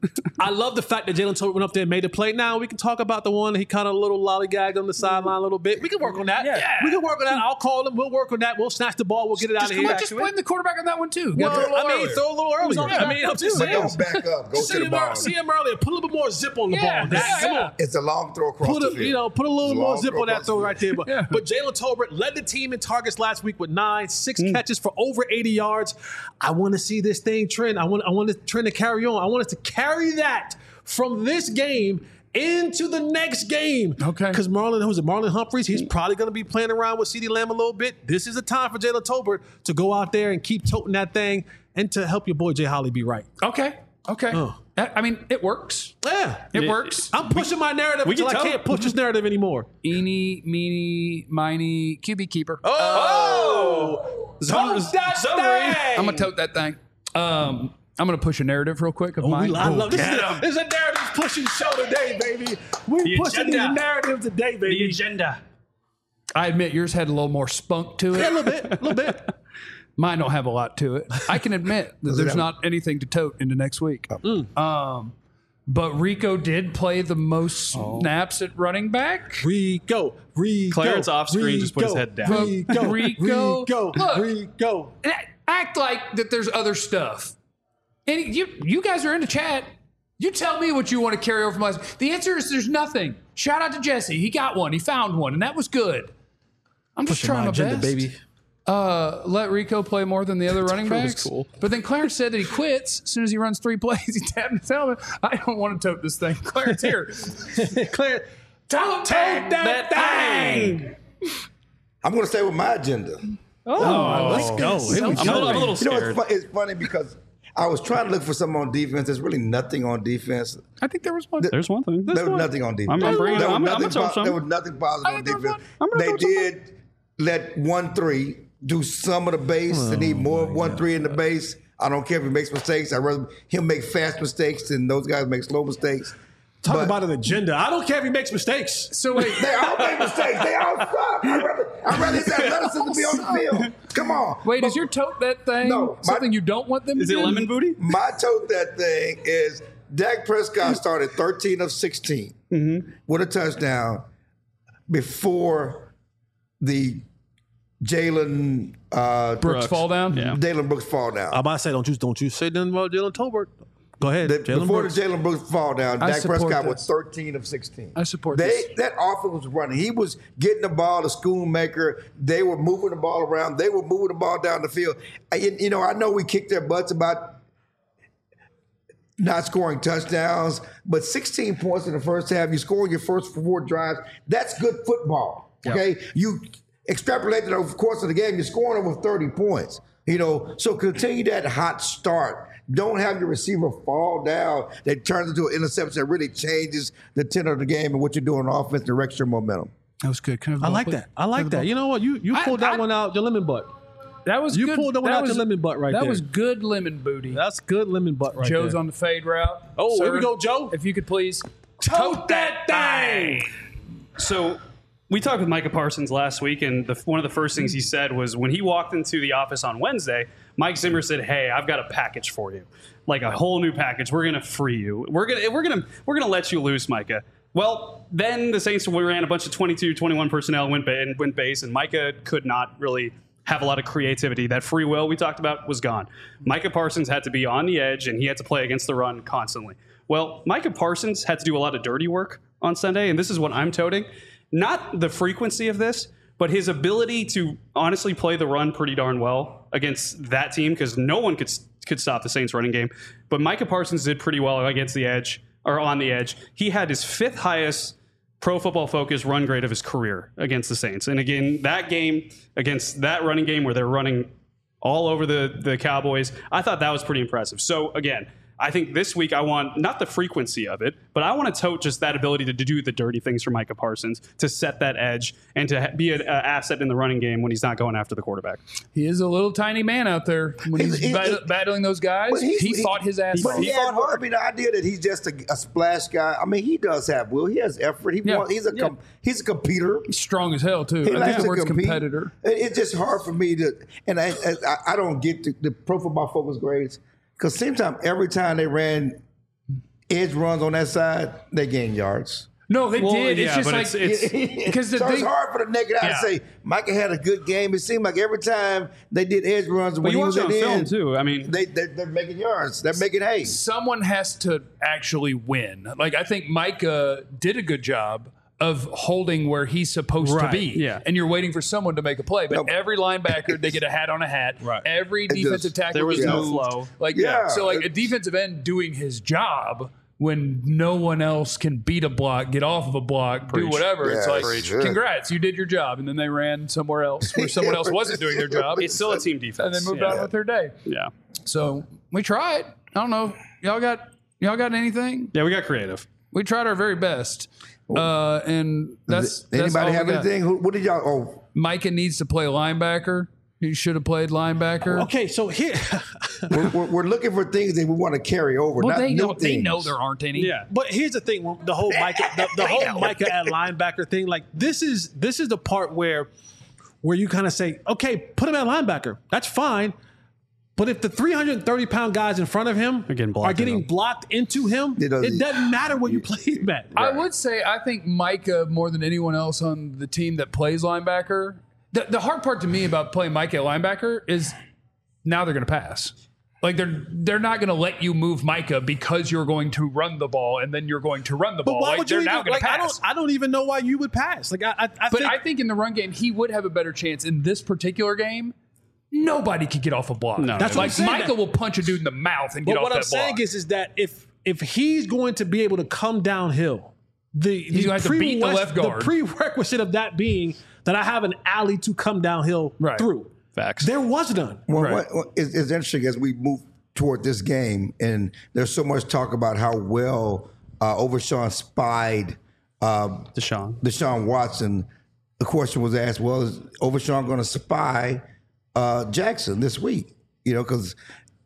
I love the fact that Jalen Tolbert went up there and made a play. Now we can talk about the one he kind of a little lollygagged on the sideline a little bit. We can work on that. Yeah. We can work on that. I'll call him. We'll work on that. We'll snatch the ball. We'll get it out Just, of come here. on, just blame the quarterback on that one too. Well, Got there a little I mean, earlier. throw a little earlier. Yeah. I mean, I'm just But saying. don't back up. Go See to the him, ball. ear- see him earlier. Put a little bit more zip on the Yeah, ball. yeah, Come yeah. on. It's a long throw across Put the a, field. you know, put a little It's a more long zip throw on that across throw the right field. there. But, Yeah. but Jalen Tolbert led the team in targets last week with nine, six catches for over eighty yards. I want to see this thing trend. I want, I want this trend to carry on. I want us to carry that from this game into the next game. Okay. Because Marlon, who's it? Marlon Humphreys, he's probably going to be playing around with CeeDee Lamb a little bit. This is the time for Jalen Tolbert to go out there and keep toting that thing and to help your boy Jay Holly be right. Okay. Okay. Oh. I I mean, it works. Yeah. It works. I'm pushing my narrative we until I can tell. can't push this narrative anymore. Eeny, meeny, miny, Q B keeper. Oh! Zone- Tote that zone thing! I'm gonna tote that thing. Um, I'm gonna push a narrative real quick of Oh, mine. we, I love this. Is get a, 'em. this is a narrative pushing show today, baby. We The pushing agenda. these narratives today, The baby. agenda. I admit yours had a little more spunk to it. Yeah, a little bit, a little bit. Mine don't have a lot to it. I can admit that there's not anything to tote into next week. Um, but Rico did play the most snaps at running back. Rico, Rico. Clarence off screen just put his head down. Rico, Rico. Rico, Look. Rico. Act like that there's other stuff. And you, you guys are in the chat. You tell me what you want to carry over from last. The answer is there's nothing. Shout out to Jesse. He got one. He found one, and that was good. I'm just Pushing trying my my agenda, best. baby. Uh, let Rico play more than the other running That was backs. cool. But then Clarence said that he quits as soon as he runs three plays. He tapped his helmet. I don't want to tote this thing. Clarence, here. Clarence, Tote that thing. I'm going to stay with my agenda. oh, let's go. Here we I'm a little, I'm a little You know, scared. it's, fu- it's funny because I was trying to look for something on defense. There's really nothing on defense. I think there was one. There's one thing. There was nothing on defense. I'm, I'm bringing it. There was I'm, I'm nothing gonna po- talk there was some. nothing positive I on think there was defense. one. I'm gonna They throw some. did let one three do some of the base. They need more of one three in the base. I don't care if he makes mistakes. I'd rather him make fast mistakes than those guys make slow mistakes. Talk But- about an agenda. I don't care if he makes mistakes. So wait, They all make mistakes. They all suck. I'd rather, I'd rather his athleticism be on the field. Come on. wait, But is your tote that thing No, my- something you don't want them Is to it do? lemon booty? my tote that thing is Dak Prescott started thirteen of sixteen with a touchdown before the Jalen uh, Brooks fall down? Yeah. Jalen Brooks fall down. I'm about to say, don't you don't you say nothing about Jalen Tolbert. Go ahead, The- Jalen before Brooks. the Jalen Brooks fall down, I Dak support Prescott this. was thirteen of sixteen. I support they, this. That offense was running. He was getting the ball to Schoonmaker. They were moving the ball around. They were moving the ball down the field. And, you know, I know we kicked their butts about not scoring touchdowns, but sixteen points in the first half. You score your first four drives. That's good football. Okay, you extrapolate it over the course of the game. You're scoring over thirty points. You know, so continue that hot start. Don't have your receiver fall down that turns into an interception that really changes the tenor of the game and what you're doing on offense, directs your momentum. That was good. Can I, have the I ball, like please? that. I like that. You know what? You you I- pulled that I- one out your lemon butt. That was You good. pulled that one out your lemon butt right that there. was good lemon booty. That's good lemon butt right Joe's there. on the fade route. Oh, here Sir, we go, Joe. If you could please tote that thing. So we talked with Micah Parsons last week, and the, one of the first things he said was when he walked into the office on Wednesday, Mike Zimmer said, "Hey, I've got a package for you, like a whole new package. We're gonna free you. We're gonna we're gonna we're gonna let you loose, Micah." Well, then the Saints ran a bunch of twenty-two, twenty-one personnel, went, ba- and went base, and Micah could not really have a lot of creativity. That free will we talked about was gone. Micah Parsons had to be on the edge, and he had to play against the run constantly. Well, Micah Parsons had to do a lot of dirty work on Sunday, and this is what I'm toting. Not the frequency of this, but his ability to honestly play the run pretty darn well against that team, because no one could could stop the Saints running game. But Micah Parsons did pretty well against the edge, or on the edge. He had his fifth highest Pro Football Focus run grade of his career against the Saints. And again, that game against that running game where they're running all over the, the Cowboys, I thought that was pretty impressive. So again, I think this week I want not the frequency of it, but I want to tote just that ability to, to do the dirty things for Micah Parsons, to set that edge, and to ha- be an asset in the running game when he's not going after the quarterback. He is a little tiny man out there when he's, He's- he- bat- he- battling those guys. But he's- He he- fought his ass But off. he has, I mean, the idea that he's just a, a splash guy. I mean, he does have will. He has effort. He Yeah. wants, he's a com, he's a competitor. He's strong as hell too. He I think likes the to word's compete. competitor. It- It's just hard for me to, and I, I, I don't get the, the Pro Football Focus grades because same time every time they ran edge runs on that side, they gained yards. No, they Well, did. It's yeah, just but like it's- it's- because the so it's thing. hard for the naked eye Yeah. to say Micah had a good game. It seemed like every time they did edge runs when But he you was watch at it the on film end, too. I mean, they they're, they're making yards. They're making hay. Someone has to actually win. Like I think Micah did a good job of holding where he's supposed Right, to be. yeah. And you're waiting for someone to make a play. But No. every linebacker, they get a hat on a hat. Right. Every just- defensive tackle there was gets no moved. flow. Like Yeah, so like a it's- defensive end doing his job when no one else can beat a block, get off of a block, do Preach. whatever. It's Yeah, like, preach. congrats, you did your job. And then they ran somewhere else where someone else wasn't doing their job. it's still a team defense. And they moved yeah. on with their day. Yeah. So we tried. I don't know. Y'all got y'all got anything? Yeah, we got creative. We tried our very best. Uh, and that's, Does that's anybody all have we got. anything? Who, what did y'all? Oh, Micah needs to play linebacker. He should have played linebacker. Okay, so here, we're, we're, we're looking for things that we want to carry over. Well, not they new know they things. know there aren't any. Yeah. but here's the thing: the whole Micah, the, the whole Micah at linebacker thing. Like this is this is the part where where you kind of say, okay, put him at linebacker. That's fine. But if the three hundred thirty pound guys in front of him getting blocked are getting into him. blocked into him, It it doesn't- doesn't, matter where you play him at. I would say I think Micah more than anyone else on the team that plays linebacker. The, the hard part to me about playing Micah at linebacker is now they're going to pass. Like they're they're not going to let you move Micah because you're going to run the ball and then you're going to run the But ball. why Like, would you they're now even, going like? to I pass. don't. I don't even know why you would pass. Like I, I, I But think, I think in the run game he would have a better chance. In this particular game, nobody could get off a block. No. That's what I'm like saying. Micah will punch a dude in the mouth and get But off what that I'm saying block. is, is that if if he's going to be able to come downhill, the the, gonna have to beat the prerequis- left guard. the prerequisite of that being that I have an alley to come downhill Right. through. Facts. There was none. Well, Right. what, what is, is interesting as we move toward this game, and there's so much talk about how well uh, Overshawn spied um, Deshaun. Deshaun Watson. The question was asked, well, is Overshawn going to spy uh, Jackson this week? You know, because,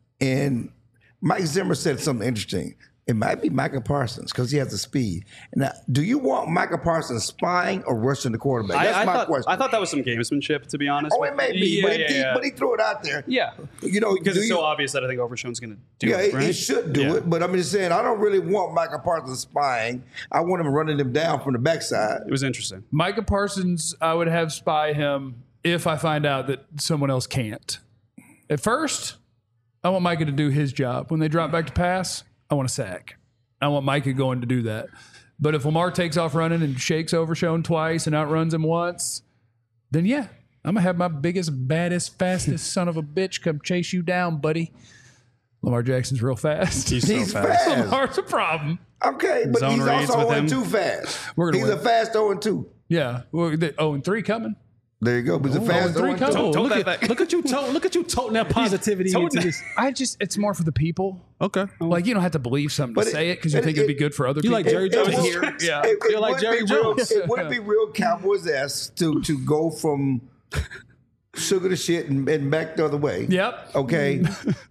and Mike Zimmer said something interesting. It might be Micah Parsons because he has the speed. Now, do you want Micah Parsons spying or rushing the quarterback? That's I, I my thought, question. I thought that was some gamesmanship, to be honest. oh, it may be, Yeah, but, yeah, he, yeah. but he threw it out there. Yeah. You know, Because do it's you- so obvious that I think Overshown's going to do Yeah, it, it, right? it should do Yeah. it, but I'm just saying I don't really want Micah Parsons spying. I want him running him down from the backside. It was interesting. Micah Parsons, I would have spy him if I find out that someone else can't. At first, I want Micah to do his job. When they drop back to pass, I want a sack. I want Micah going to do that. But if Lamar takes off running and shakes Overshown twice and outruns him once, then yeah, I'm going to have my biggest, baddest, fastest son of a bitch come chase you down, buddy. Lamar Jackson's real fast. He's so He's fast. fast. Lamar's a problem. Okay, but Zone he's reads also with oh him. and two fast. We're gonna He's win. a fast oh and two. Yeah. Well, the- oh, and three coming. There you go. But he's a fast three oh and coming. two. Oh, Tote look, that at, back. look at you, tote, look at you toting that positivity toting into that. this. I just, it's more for the people. Okay, Like, you don't have to believe something But to it- say it because you it- think it'd be it- good for other you people. like Jerry It, Jones? it, would- Here, yeah. it, it You're like would Jerry be real, Jones. it would be real Cowboys-esque to, to go from sugar to shit and, and back the other way. Yep. Okay.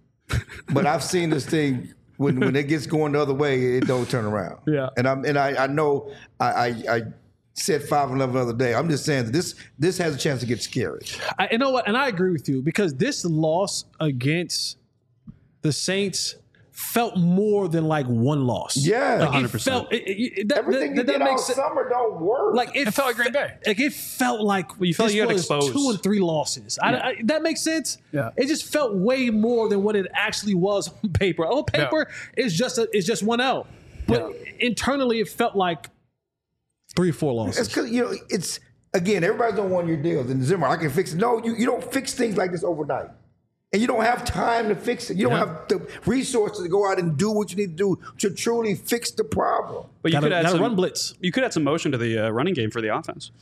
But I've seen this thing when when it gets going the other way, it don't turn around. Yeah. And I'm and I, I know I, I I said five and eleven the other day. I'm just saying that this this has a chance to get scary. I, you know what? And I agree with you because this loss against the Saints felt more than like one loss. Yeah. like one hundred it percent. felt. It, it, it, that, Everything that, you that did all makes sense. summer don't work. Like it, It felt like Green Bay. Like it felt like you felt this you got was exposed. two and three losses. I, I, that makes sense. Yeah. It just felt way more than what it actually was on paper. On paper, it's just a, it's just one L, but internally, it felt like three or four losses. it's because you know it's again everybody's on one year deals and Zimmer I can fix it. No, you, you don't fix things like this overnight. And you don't have time to fix it. You don't have the resources to go out and do what you need to do to truly fix the problem. But you Gotta- could add gotta some run blitz. You could add some motion to the uh, running game for the offense.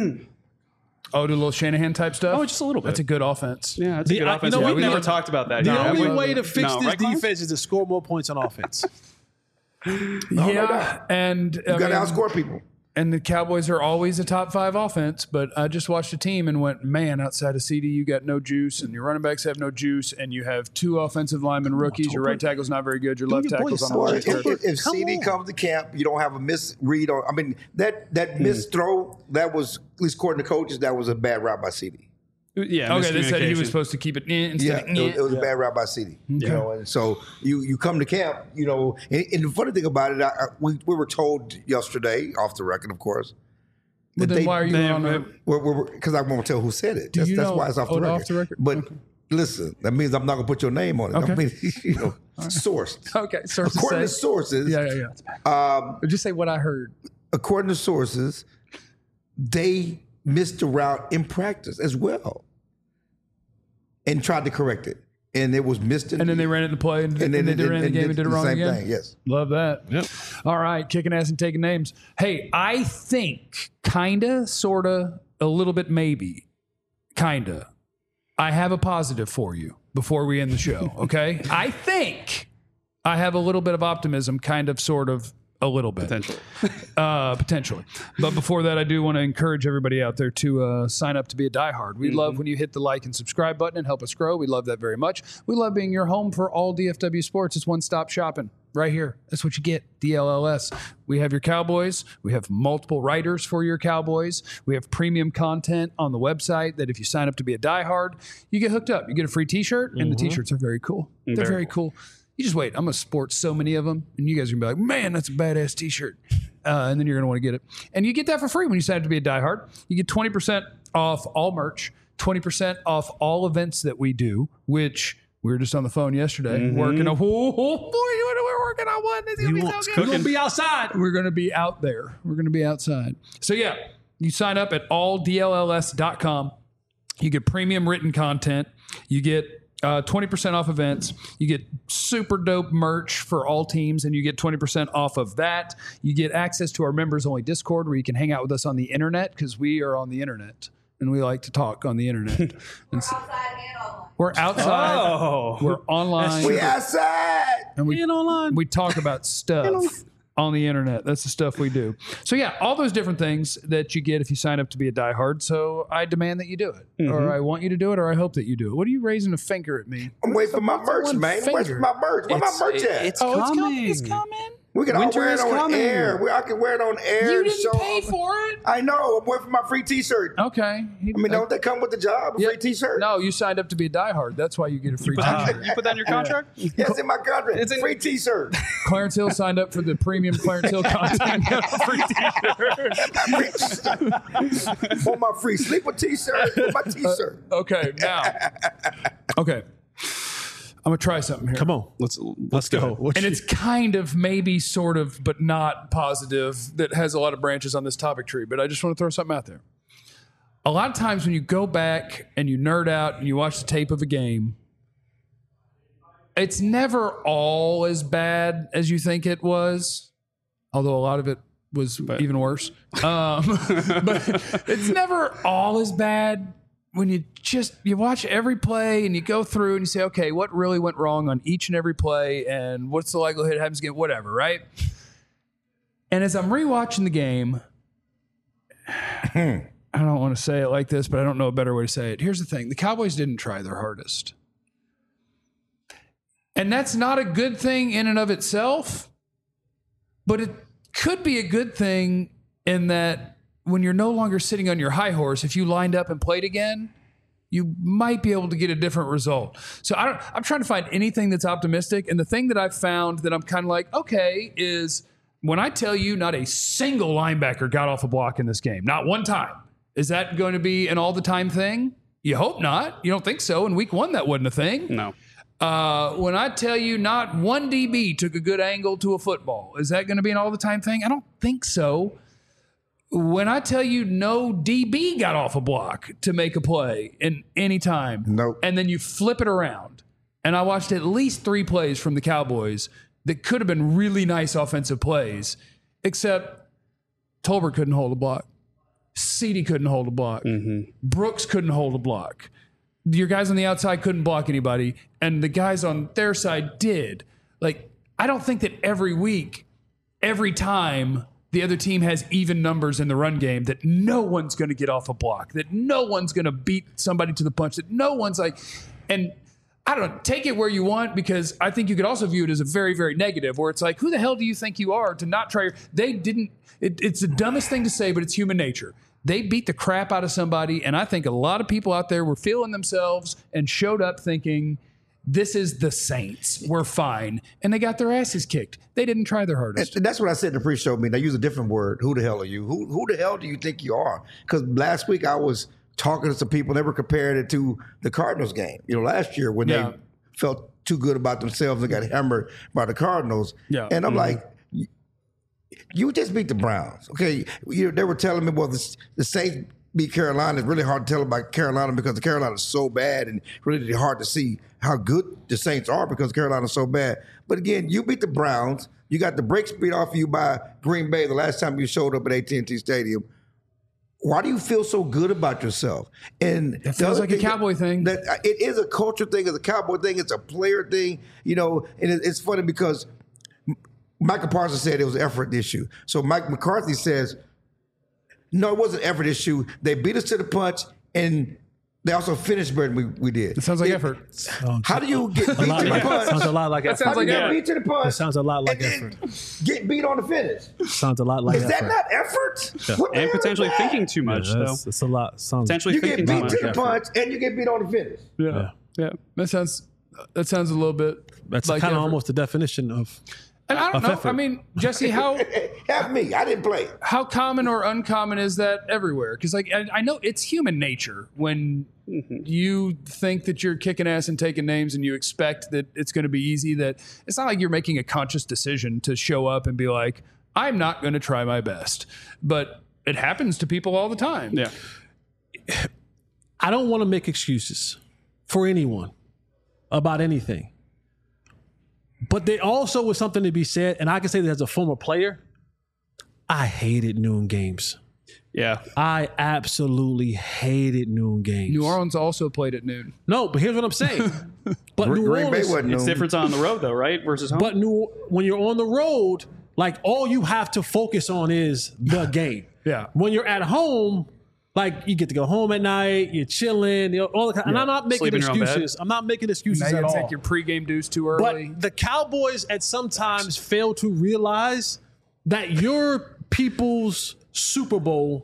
Oh, do a little Shanahan type stuff? Oh, just a little bit. That's a good offense. Yeah, that's The- a good I- you offense. know, Yeah, we we never never- talked about that. The Yeah, only we- way to fix no, this right, Clowns? defense is to score more points on offense. Yeah. And You I got to mean, outscore people. and the Cowboys are always a top five offense, but I just watched a team and went, man, outside of C D, you got no juice, and your running backs have no juice, and you have two offensive linemen rookies. Your right tackle's not very good. Your left your boy tackle's on the Saul. Well, line. if, Tolbert, if, if come C D on. comes to camp, you don't have a misread on. I mean, that that missed throw that was at least according to coaches that was a bad route by C D. Yeah, Okay, they said he miscommunication. was supposed to keep it in Yeah, instead it, of was, it was a bad route by C D. You know, and so you you come to camp, you know, and, and the funny thing about it, I, I, we we were told yesterday, off the record, of course. But that then they- why are you they- on a, Because I won't tell who said it. That's, you that's know- why it's off the, oh, record. off the record? But listen, that means I'm not going to put your name on it. Okay. I mean, you know, sourced. Okay, sources According to say. sources, Yeah, yeah, yeah. Um, just say what I heard. according to sources, they missed the route in practice as well, and tried to correct it, and it was missed. In, And then they ran it in the play, and, and then they ran the game and did it wrong same again. thing. Yes. Love that. Yep. All right, kicking ass and taking names. Hey, I think, kinda, sorta, a little bit, maybe, kinda. I have a positive for you before we end the show. Okay, I think I have a little bit of optimism, kind of, sort of, A little bit. Potentially. Uh, potentially. But before that, I do want to encourage everybody out there to uh, sign up to be a diehard. We mm-hmm. love when you hit the like and subscribe button and help us grow. We love that very much. We love being your home for all D F W sports. It's one-stop shopping right here. That's what you get, D L L S. We have your Cowboys. We have multiple writers for your Cowboys. We have premium content on the website that if you sign up to be a diehard, you get hooked up. You get a free T-shirt, and mm-hmm. the T-shirts are very cool. They're very, very cool. cool. You just wait. I'm going to sport so many of them, and you guys are going to be like, man, that's a badass T-shirt. Uh, and then you're going to want to get it. And you get that for free when you sign up to be a diehard. You get twenty percent off all merch, twenty percent off all events that we do, which we were just on the phone yesterday mm-hmm. working on. Oh, oh, boy, we're working on one. It's going to be so good. We're going to be outside. We're going to be out there. We're going to be outside. So, yeah, you sign up at all D L L S dot com. You get premium written content. You get Uh, twenty percent off events. You get super dope merch for all teams, and you get twenty percent off of that. You get access to our members-only Discord where you can hang out with us on the internet because we are on the internet, and we like to talk on the internet. We're outside and online. We're outside. Oh. We're online. We outside. And we, and online. we talk about stuff on the internet. That's the stuff we do. So, yeah, all those different things that you get if you sign up to be a diehard. So I demand that you do it, mm-hmm. or I want you to do it, or I hope that you do it. What are you raising a finger at me? I'm waiting for my merch, man. Where's my merch? Where's my merch at? It's oh, coming. It's coming. We can all Winter wear it is on coming. air. We, I can wear it on air. You and didn't show pay off. for it. I know. I'm waiting for my free T-shirt. Okay. I mean, don't they come with the job? A Yeah. free T-shirt? No, you signed up to be a diehard. That's why you get a free T-shirt. You put that in your contract? Yes, in my contract. It's a free T-shirt. Clarence Hill signed up for the premium Clarence Hill content. Got a free T-shirt. Want my free sleeper T-shirt? Want my T-shirt? Uh, okay, now. Okay. I'm going to try something here. Come on. Let's Let's go. What And you- it's kind of maybe sort of, but not positive, that has a lot of branches on this topic tree, but I just want to throw something out there. A lot of times when you go back and you nerd out and you watch the tape of a game, it's never all as bad as you think it was, although a lot of it was but. even worse. Um, but it's never all as bad when you just you watch every play and you go through and you say, okay, what really went wrong on each and every play, and what's the likelihood it happens again, whatever, right? And as I'm rewatching the game, I don't want to say it like this, but I don't know a better way to say it. Here's the thing: the Cowboys didn't try their hardest, and that's not a good thing in and of itself, but it could be a good thing in that when you're no longer sitting on your high horse, if you lined up and played again, you might be able to get a different result. So I don't, I'm trying to find anything that's optimistic. And the thing that I've found that I'm kind of like, okay, is when I tell you not a single linebacker got off a block in this game, not one time, is that going to be an all the time thing? You hope not. You don't think so. In week one, that wasn't a thing. No. Uh, when I tell you not one D B took a good angle to a football, is that going to be an all the time thing? I don't think so. When I tell you no D B got off a block to make a play in any time, Nope. and then you flip it around, and I watched at least three plays from the Cowboys that could have been really nice offensive plays, except Tolbert couldn't hold a block. Ceedee couldn't hold a block. Mm-hmm. Brooks couldn't hold a block. Your guys on the outside couldn't block anybody, and the guys on their side did. Like, I don't think that every week, every time the other team has even numbers in the run game, that no one's going to get off a block, that no one's going to beat somebody to the punch, that no one's like, and I don't know, take it where you want, because I think you could also view it as a very, very negative, where it's like, who the hell do you think you are to not try? They didn't, it, it's the dumbest thing to say, but it's human nature. They beat the crap out of somebody, and I think a lot of people out there were feeling themselves and showed up thinking, this is the Saints. We're fine. And they got their asses kicked. They didn't try their hardest. And that's what I said in the pre-show meeting. I use a different word. Who the hell are you? Who who the hell do you think you are? Because last week I was talking to some people, never compared it to the Cardinals game. You know, last year when Yeah. they felt too good about themselves and got hammered by the Cardinals. Yeah. And I'm Mhm. like, you just beat the Browns. Okay. You, they were telling me, well, the, the Saints beat Carolina. It's really hard to tell about Carolina because the Carolina is so bad, and really hard to see how good the Saints are because Carolina is so bad. But again, you beat the Browns. You got the brakes beat off you by Green Bay the last time you showed up at A T and T Stadium. Why do you feel so good about yourself? And It feels like a Cowboy thing. That it is a culture thing. It's a Cowboy thing. It's a player thing. You know, and it, it's funny because Michael Parsons said it was an effort issue. So Mike McCarthy says, no, it wasn't an effort issue. They beat us to the punch, and they also finished better than we, we did. It sounds like It- effort. How do you get beat to the punch? Sounds a lot like That effort. sounds How do you like get effort. beat to the punch? It sounds a lot like and then effort. get beat on the finish. Sounds a lot like Is effort. that not effort? What the And hell is potentially that? thinking too much, Yeah, though. that's, that's a lot. Sounds Potentially You get thinking too beat much. to the effort. punch and you get beat on the finish. Yeah. yeah, That sounds that sounds a little bit. That's like kind of effort. almost the definition of. And I don't of know. effort. I mean, Jesse, how Help me. I didn't play. how common or uncommon is that everywhere? Because like I, I know it's human nature when you think that you're kicking ass and taking names, and you expect that it's going to be easy. That it's not like you're making a conscious decision to show up and be like, I'm not going to try my best, but it happens to people all the time. Yeah. I don't want to make excuses for anyone about anything. But there also was something to be said, and I can say that as a former player, I hated noon games. Yeah. I absolutely hated noon games. New Orleans also played at noon. No, but here's what I'm saying. But New Green Bay Orleans, wasn't It's noon. different on the road, though, right? Versus home. but New when you're on the road, like all you have to focus on is the game. Yeah. When you're at home, like you get to go home at night, you're chilling, you know, all the kind. And I'm not making Sleep in your own bed. excuses. I'm not making Now excuses you at all. take your pregame deuce too But early. the Cowboys at sometimes fail to realize that your people's Super Bowl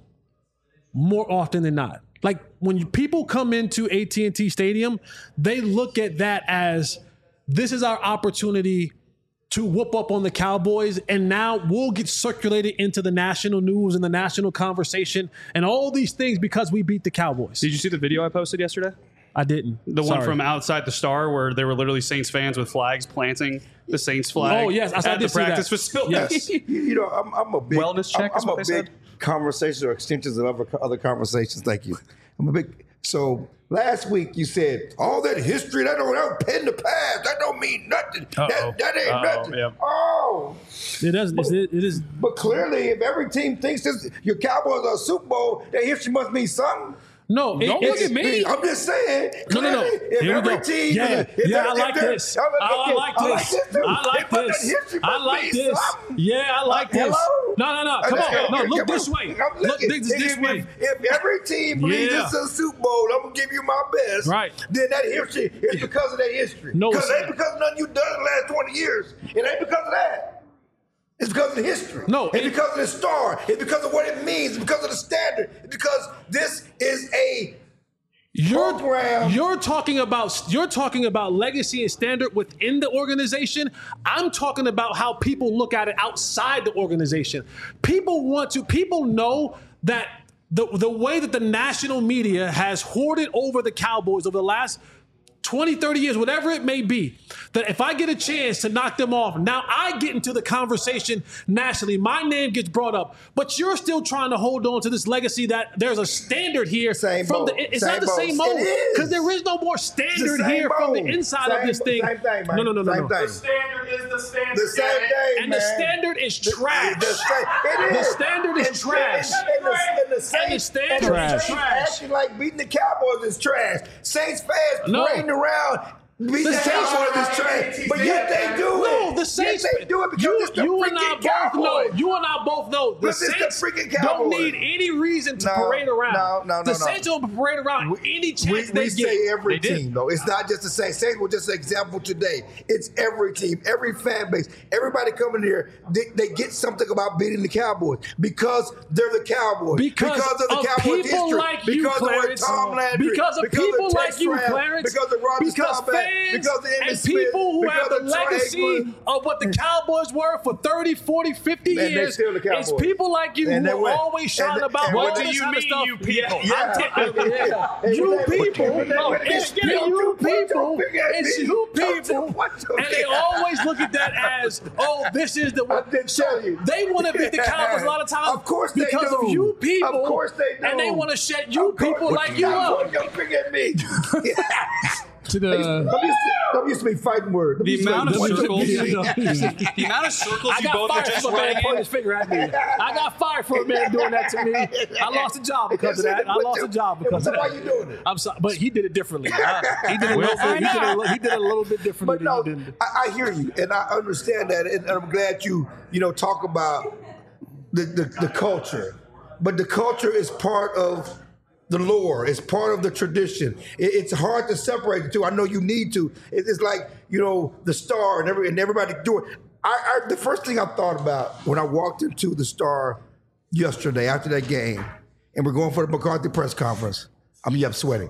more often than not. Like when you, people come into A T and T Stadium, they look at that as this is our opportunity to whoop up on the Cowboys, and now we'll get circulated into the national news and the national conversation and all these things because we beat the Cowboys. Did you see the video I posted yesterday? I didn't. The one Sorry. from outside the Star where there were literally Saints fans with flags planting the Saints flag. Oh, yes, I- I at did the see that. practice facility. Yes. You, you know, I'm, I'm a big Wellness check I'm, is I'm what a they big said? conversations or extensions of other other conversations. Thank you. I'm a big. So last week you said all that history that don't that pen the past. That don't mean nothing. Uh-oh. That, that ain't Uh-oh, nothing. yeah. Oh, It doesn't. It's, it is. but clearly, if every team thinks this, your Cowboys are a Super Bowl, that history must mean something. No, it- Don't look it's- at me. I'm just saying. No, no, no. clearly, If Here we every go. team, Yeah, if yeah, there- I if like there- this. I like I like this. this. too. I like If that this. history I must like mean this. something. Yeah, I like this. Hello? No, no, no. Come on. No, look this way. I'm Look looking. this, this if, way. If, if every team believes Yeah. this is a Super Bowl, I'm gonna give you my best. Right. Then that history is because of that history. No, because it's it ain't because of nothing you've done in the last twenty years. It ain't because of that. It's because of the history. No, it's it- because of the star. It's because of what it means. It's because of the standard. It's because this is a You're, program. you're talking about you're talking about legacy and standard within the organization. I'm talking about how people look at it outside the organization. People want to people know that the the way that the national media has hoarded over the Cowboys over the last twenty, thirty years, whatever it may be, that if I get a chance to knock them off, now I get into the conversation nationally. My name gets brought up, but you're still trying to hold on to this legacy that there's a standard here Same from boat. the. It's Same not the boat. same It mode is. because there is no more standard same here from the boat. inside Same- of this thing. same thing, man. No, no, no, no, Same no. thing. Standard is the standard. The same damn it. thing, And man. the standard is trash. The, sta- it The is. standard is And- trash. And, and, the, and the Saints, the standard and the is Saints trash. acting like beating the Cowboys is trash. Saints fans No. parading around. Beating the, The Saints- Cowboys is trash. But yet they do it. No, the Saints. Yet they do it because you, it's the you and I freaking both know. Cowboys. You and I both know. The Because it's the Saints freaking don't Cowboys. need any reason to No, parade around. no, no, no, The no. Saints don't parade around any chance We, they we get. say every They did. team, though. It's not just the Saints. Saints were just an example today. It's every team, every fan base, everybody coming here. They, they get something about beating the Cowboys because they're the Cowboys. Because, of the of Cowboys people history. like you, because Clarence. of Tom Landry. Because of because people of like Tex you, Brown, Clarence. Because of Roger Because Staubach. fans Because of Emmitt and Smith, people who because have the of Troy legacy Aikman. of what the Cowboys were for thirty, forty, fifty And they years. still the It's Cowboys. people like you And who they are win. always shouting And- about and all what do this you other mean, stuff. you people? Yeah. I'm t- yeah. And You when they- people. when they- when they- It's get you your- people. put your big ass It's in. you Don't people. you- what the- And they always look at that as, oh, this is the I did tell you. They want to beat the Cowboys a lot of times Of course they because do. of you people. Of course they do. And they want to shut you Of course- people like you Stop up. pointing your finger at me. to the. Them used to, them used to be fighting words. Them The used to be amount of one, two, circles, three. the amount of circles I you got both are fired just for a man running pointing in. his finger at me. I got fired for a man doing that to me. I lost a job because of that. I lost a job because So of why that. you doing it? I'm sorry, but he did it differently. Uh, he did it. a little bit, he, did it a, he did it a little bit differently But no, than you did. I, I hear you, and I understand that, and I'm glad you, you know, talk about the, the, the culture. But the culture is part of the lore. It's part of the tradition. It, it's hard to separate the two. I know you need to. It, it's like, you know, the Star and every and everybody doing. I, I the first thing I thought about when I walked into the Star yesterday after that game, and we're going for the McCarthy press conference. I'm up sweating.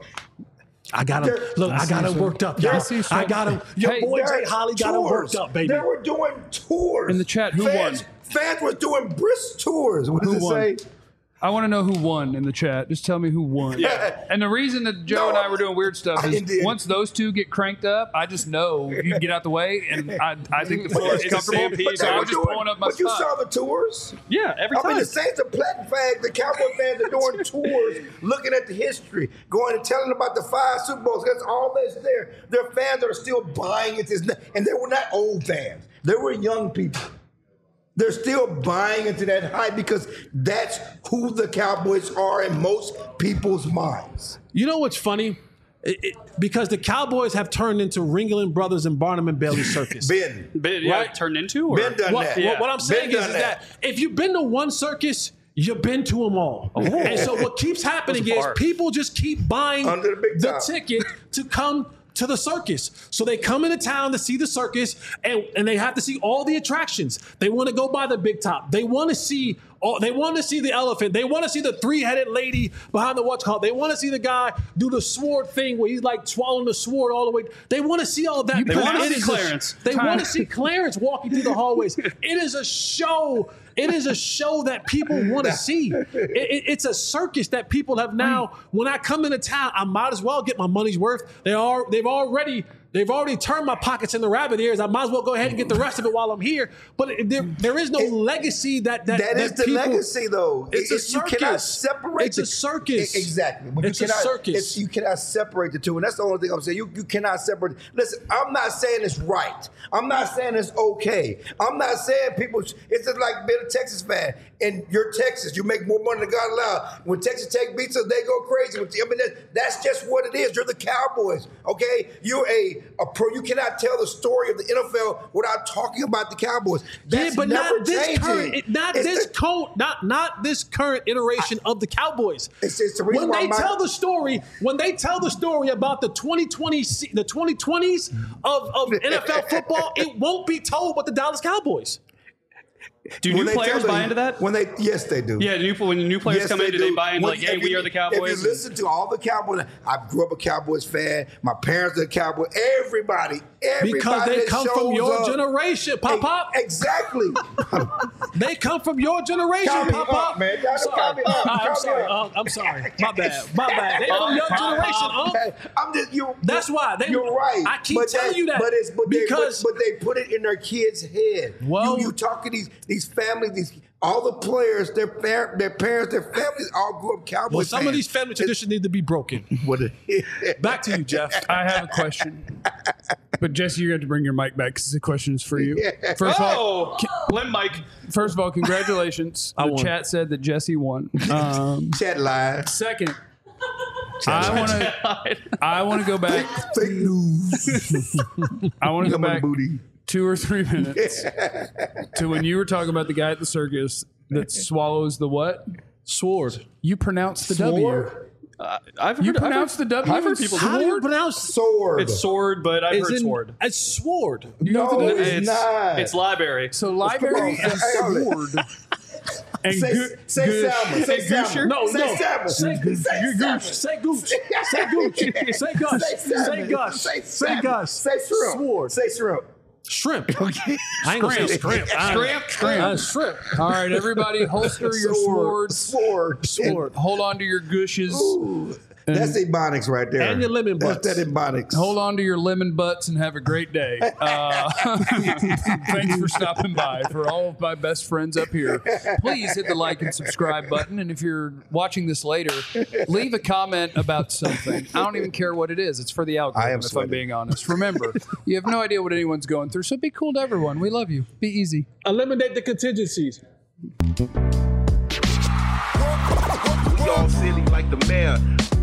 I got him. There- Look, I got him worked up, y'all. I see some- I got him. Your Hey, boy There Jay Holly got him worked up, baby. They were doing tours In the chat, who fans, won? Fans were doing brisk tours. What does Who it won? say? I want to know who won in the chat. Just tell me who won. Yeah. And the reason that Joe No, and I were doing weird stuff I is did. once those two get cranked up, I just know you can get out the way, and I, I think the floor is It's a comfortable. stampede. So They I were was just doing- pulling up my But you spot. saw the tours? Yeah, every I time. mean, the Saints are planting flags. The Cowboy fans are doing tours, looking at the history, going and telling about the five Super Bowls. That's all that's there. Their fans are still buying it, and they were not old fans. They were young people. They're still buying into that hype because that's who the Cowboys are in most people's minds. You know what's funny? It- it- because the Cowboys have turned into Ringling Brothers and Barnum and Bailey Circus. Ben, But, yeah, Right. turned into? Or? Ben done What, that. what, what I'm saying Ben is, done is that. if you've been to one circus, you've been to them all. And so what keeps happening Those is are- people just keep buying Under the big top. ticket to come to the circus. So they come into town to see the circus, and, and they have to see all the attractions. They want to go by the big top. They want to see all, they want to see the elephant. They want to see the three-headed lady behind the what's called. They want to see the guy do the sword thing where he's like swallowing the sword all the way. They want to see all that. They wanna It see is a- Clarence. They Time. want to see Clarence walking through the hallways. It is a show. It is a show that people want to see. It, it- it's a circus that people have now. When I come into town, I might as well get my money's worth. They are. They've already. They've already turned my pockets into rabbit ears. I might as well go ahead and get the rest of it while I'm here. But it- there, there is no It- legacy that that, That is the people- legacy, though. It's a It- You cannot circus. separate. It's a the- circus. E- Exactly. But It's you a cannot, circus. it's- you cannot separate the two, and that's the only thing I'm saying. You you cannot separate. Listen, I'm not saying it's right. I'm not saying it's okay. I'm not saying people. sh- It's just like being a Texas fan. And you're Texas. You make more money than God allowed. When Texas Tech beats us, they go crazy. With you. I mean, that, that's just what it is. You're the Cowboys. Okay, you're a, a pro. You cannot tell the story of the N F L without talking about the Cowboys. That's Yeah, but never not this changing. current, it- not It's this the- co- not not this current iteration of the Cowboys. It's- it's the reason when why they my- tell the story, when they tell the story about the twenty twenty, se- the twenty twenties of, of N F L football, it won't be told about the Dallas Cowboys. Do When new they players tell buy the- into that? When they, yes, they do. Yeah, new, when new players Yes, come in, they do they do. buy into When- like, hey, if we you- are the Cowboys? If you listen to all the Cowboys, I grew up a Cowboys fan. My parents are Cowboys. Everybody, everybody Because they that come from shows your up- generation, Pop E- Pop. Exactly. They come from your generation, Call me Pop up, Pop. man. Y'all Sorry. call me up. Uh, Call I'm me sorry. up. Uh, I'm sorry. My bad. My bad. They from your generation, um. I'm just you. That's why they- You're right. I keep But telling you that But it's but because- they, but, but they put it in their kids' head. Well- you, you talk to these these families, these all the players, their par- their parents, their families all grew up Cowboys. Well, some of fans. these family traditions need to be broken. What it- Back to you, Jeff. I have a question. But Jesse, you're going to have to bring your mic back because the question is for you. First of all, Oh, Lim Mike. first of all, congratulations. I the won. chat said that Jesse won. Um, Chat line. second, I want to I want to go back. Fake news. I want to go Come on, back booty. two or three minutes to when you were talking about the guy at the circus that swallows the what? Sword. You pronounced the W. Sword? Uh, I've heard, You I've heard- pronounced the W. I've heard people How do you sword. pronounce Sword. It's sword, but I've Is heard in- sword. It's sword. no, it's, It's not. It's library. So library Come on, and hang on. sword. And Say, gu- say gush. Salmon. Say And Salmon. Gusher? No, say no. Salmon. Say, Say Salmon. Say gooch. Say gooch. Say gush. Say Say salmon. gush. Say Say salmon. gush. Say shrimp. Sword. Say shrimp. Shrimp. I ain't gonna say shrimp. Shrimp, shrimp. Uh, shrimp. All right, everybody, holster your Sword. swords. Sword. Sword. Hold on to your gushes. Ooh. That's Ebonics right there. And your lemon butts. That's that Ebonics. Hold on to your lemon butts and have a great day. Uh, thanks for stopping by. For all of my best friends up here, please hit the like and subscribe button. And if you're watching this later, leave a comment about something. I don't even care what it is. It's for the algorithm, I am if sweating. I'm being honest. Remember, you have no idea what anyone's going through, so be cool to everyone. We love you. Be easy. Eliminate the contingencies. We all silly like the mayor.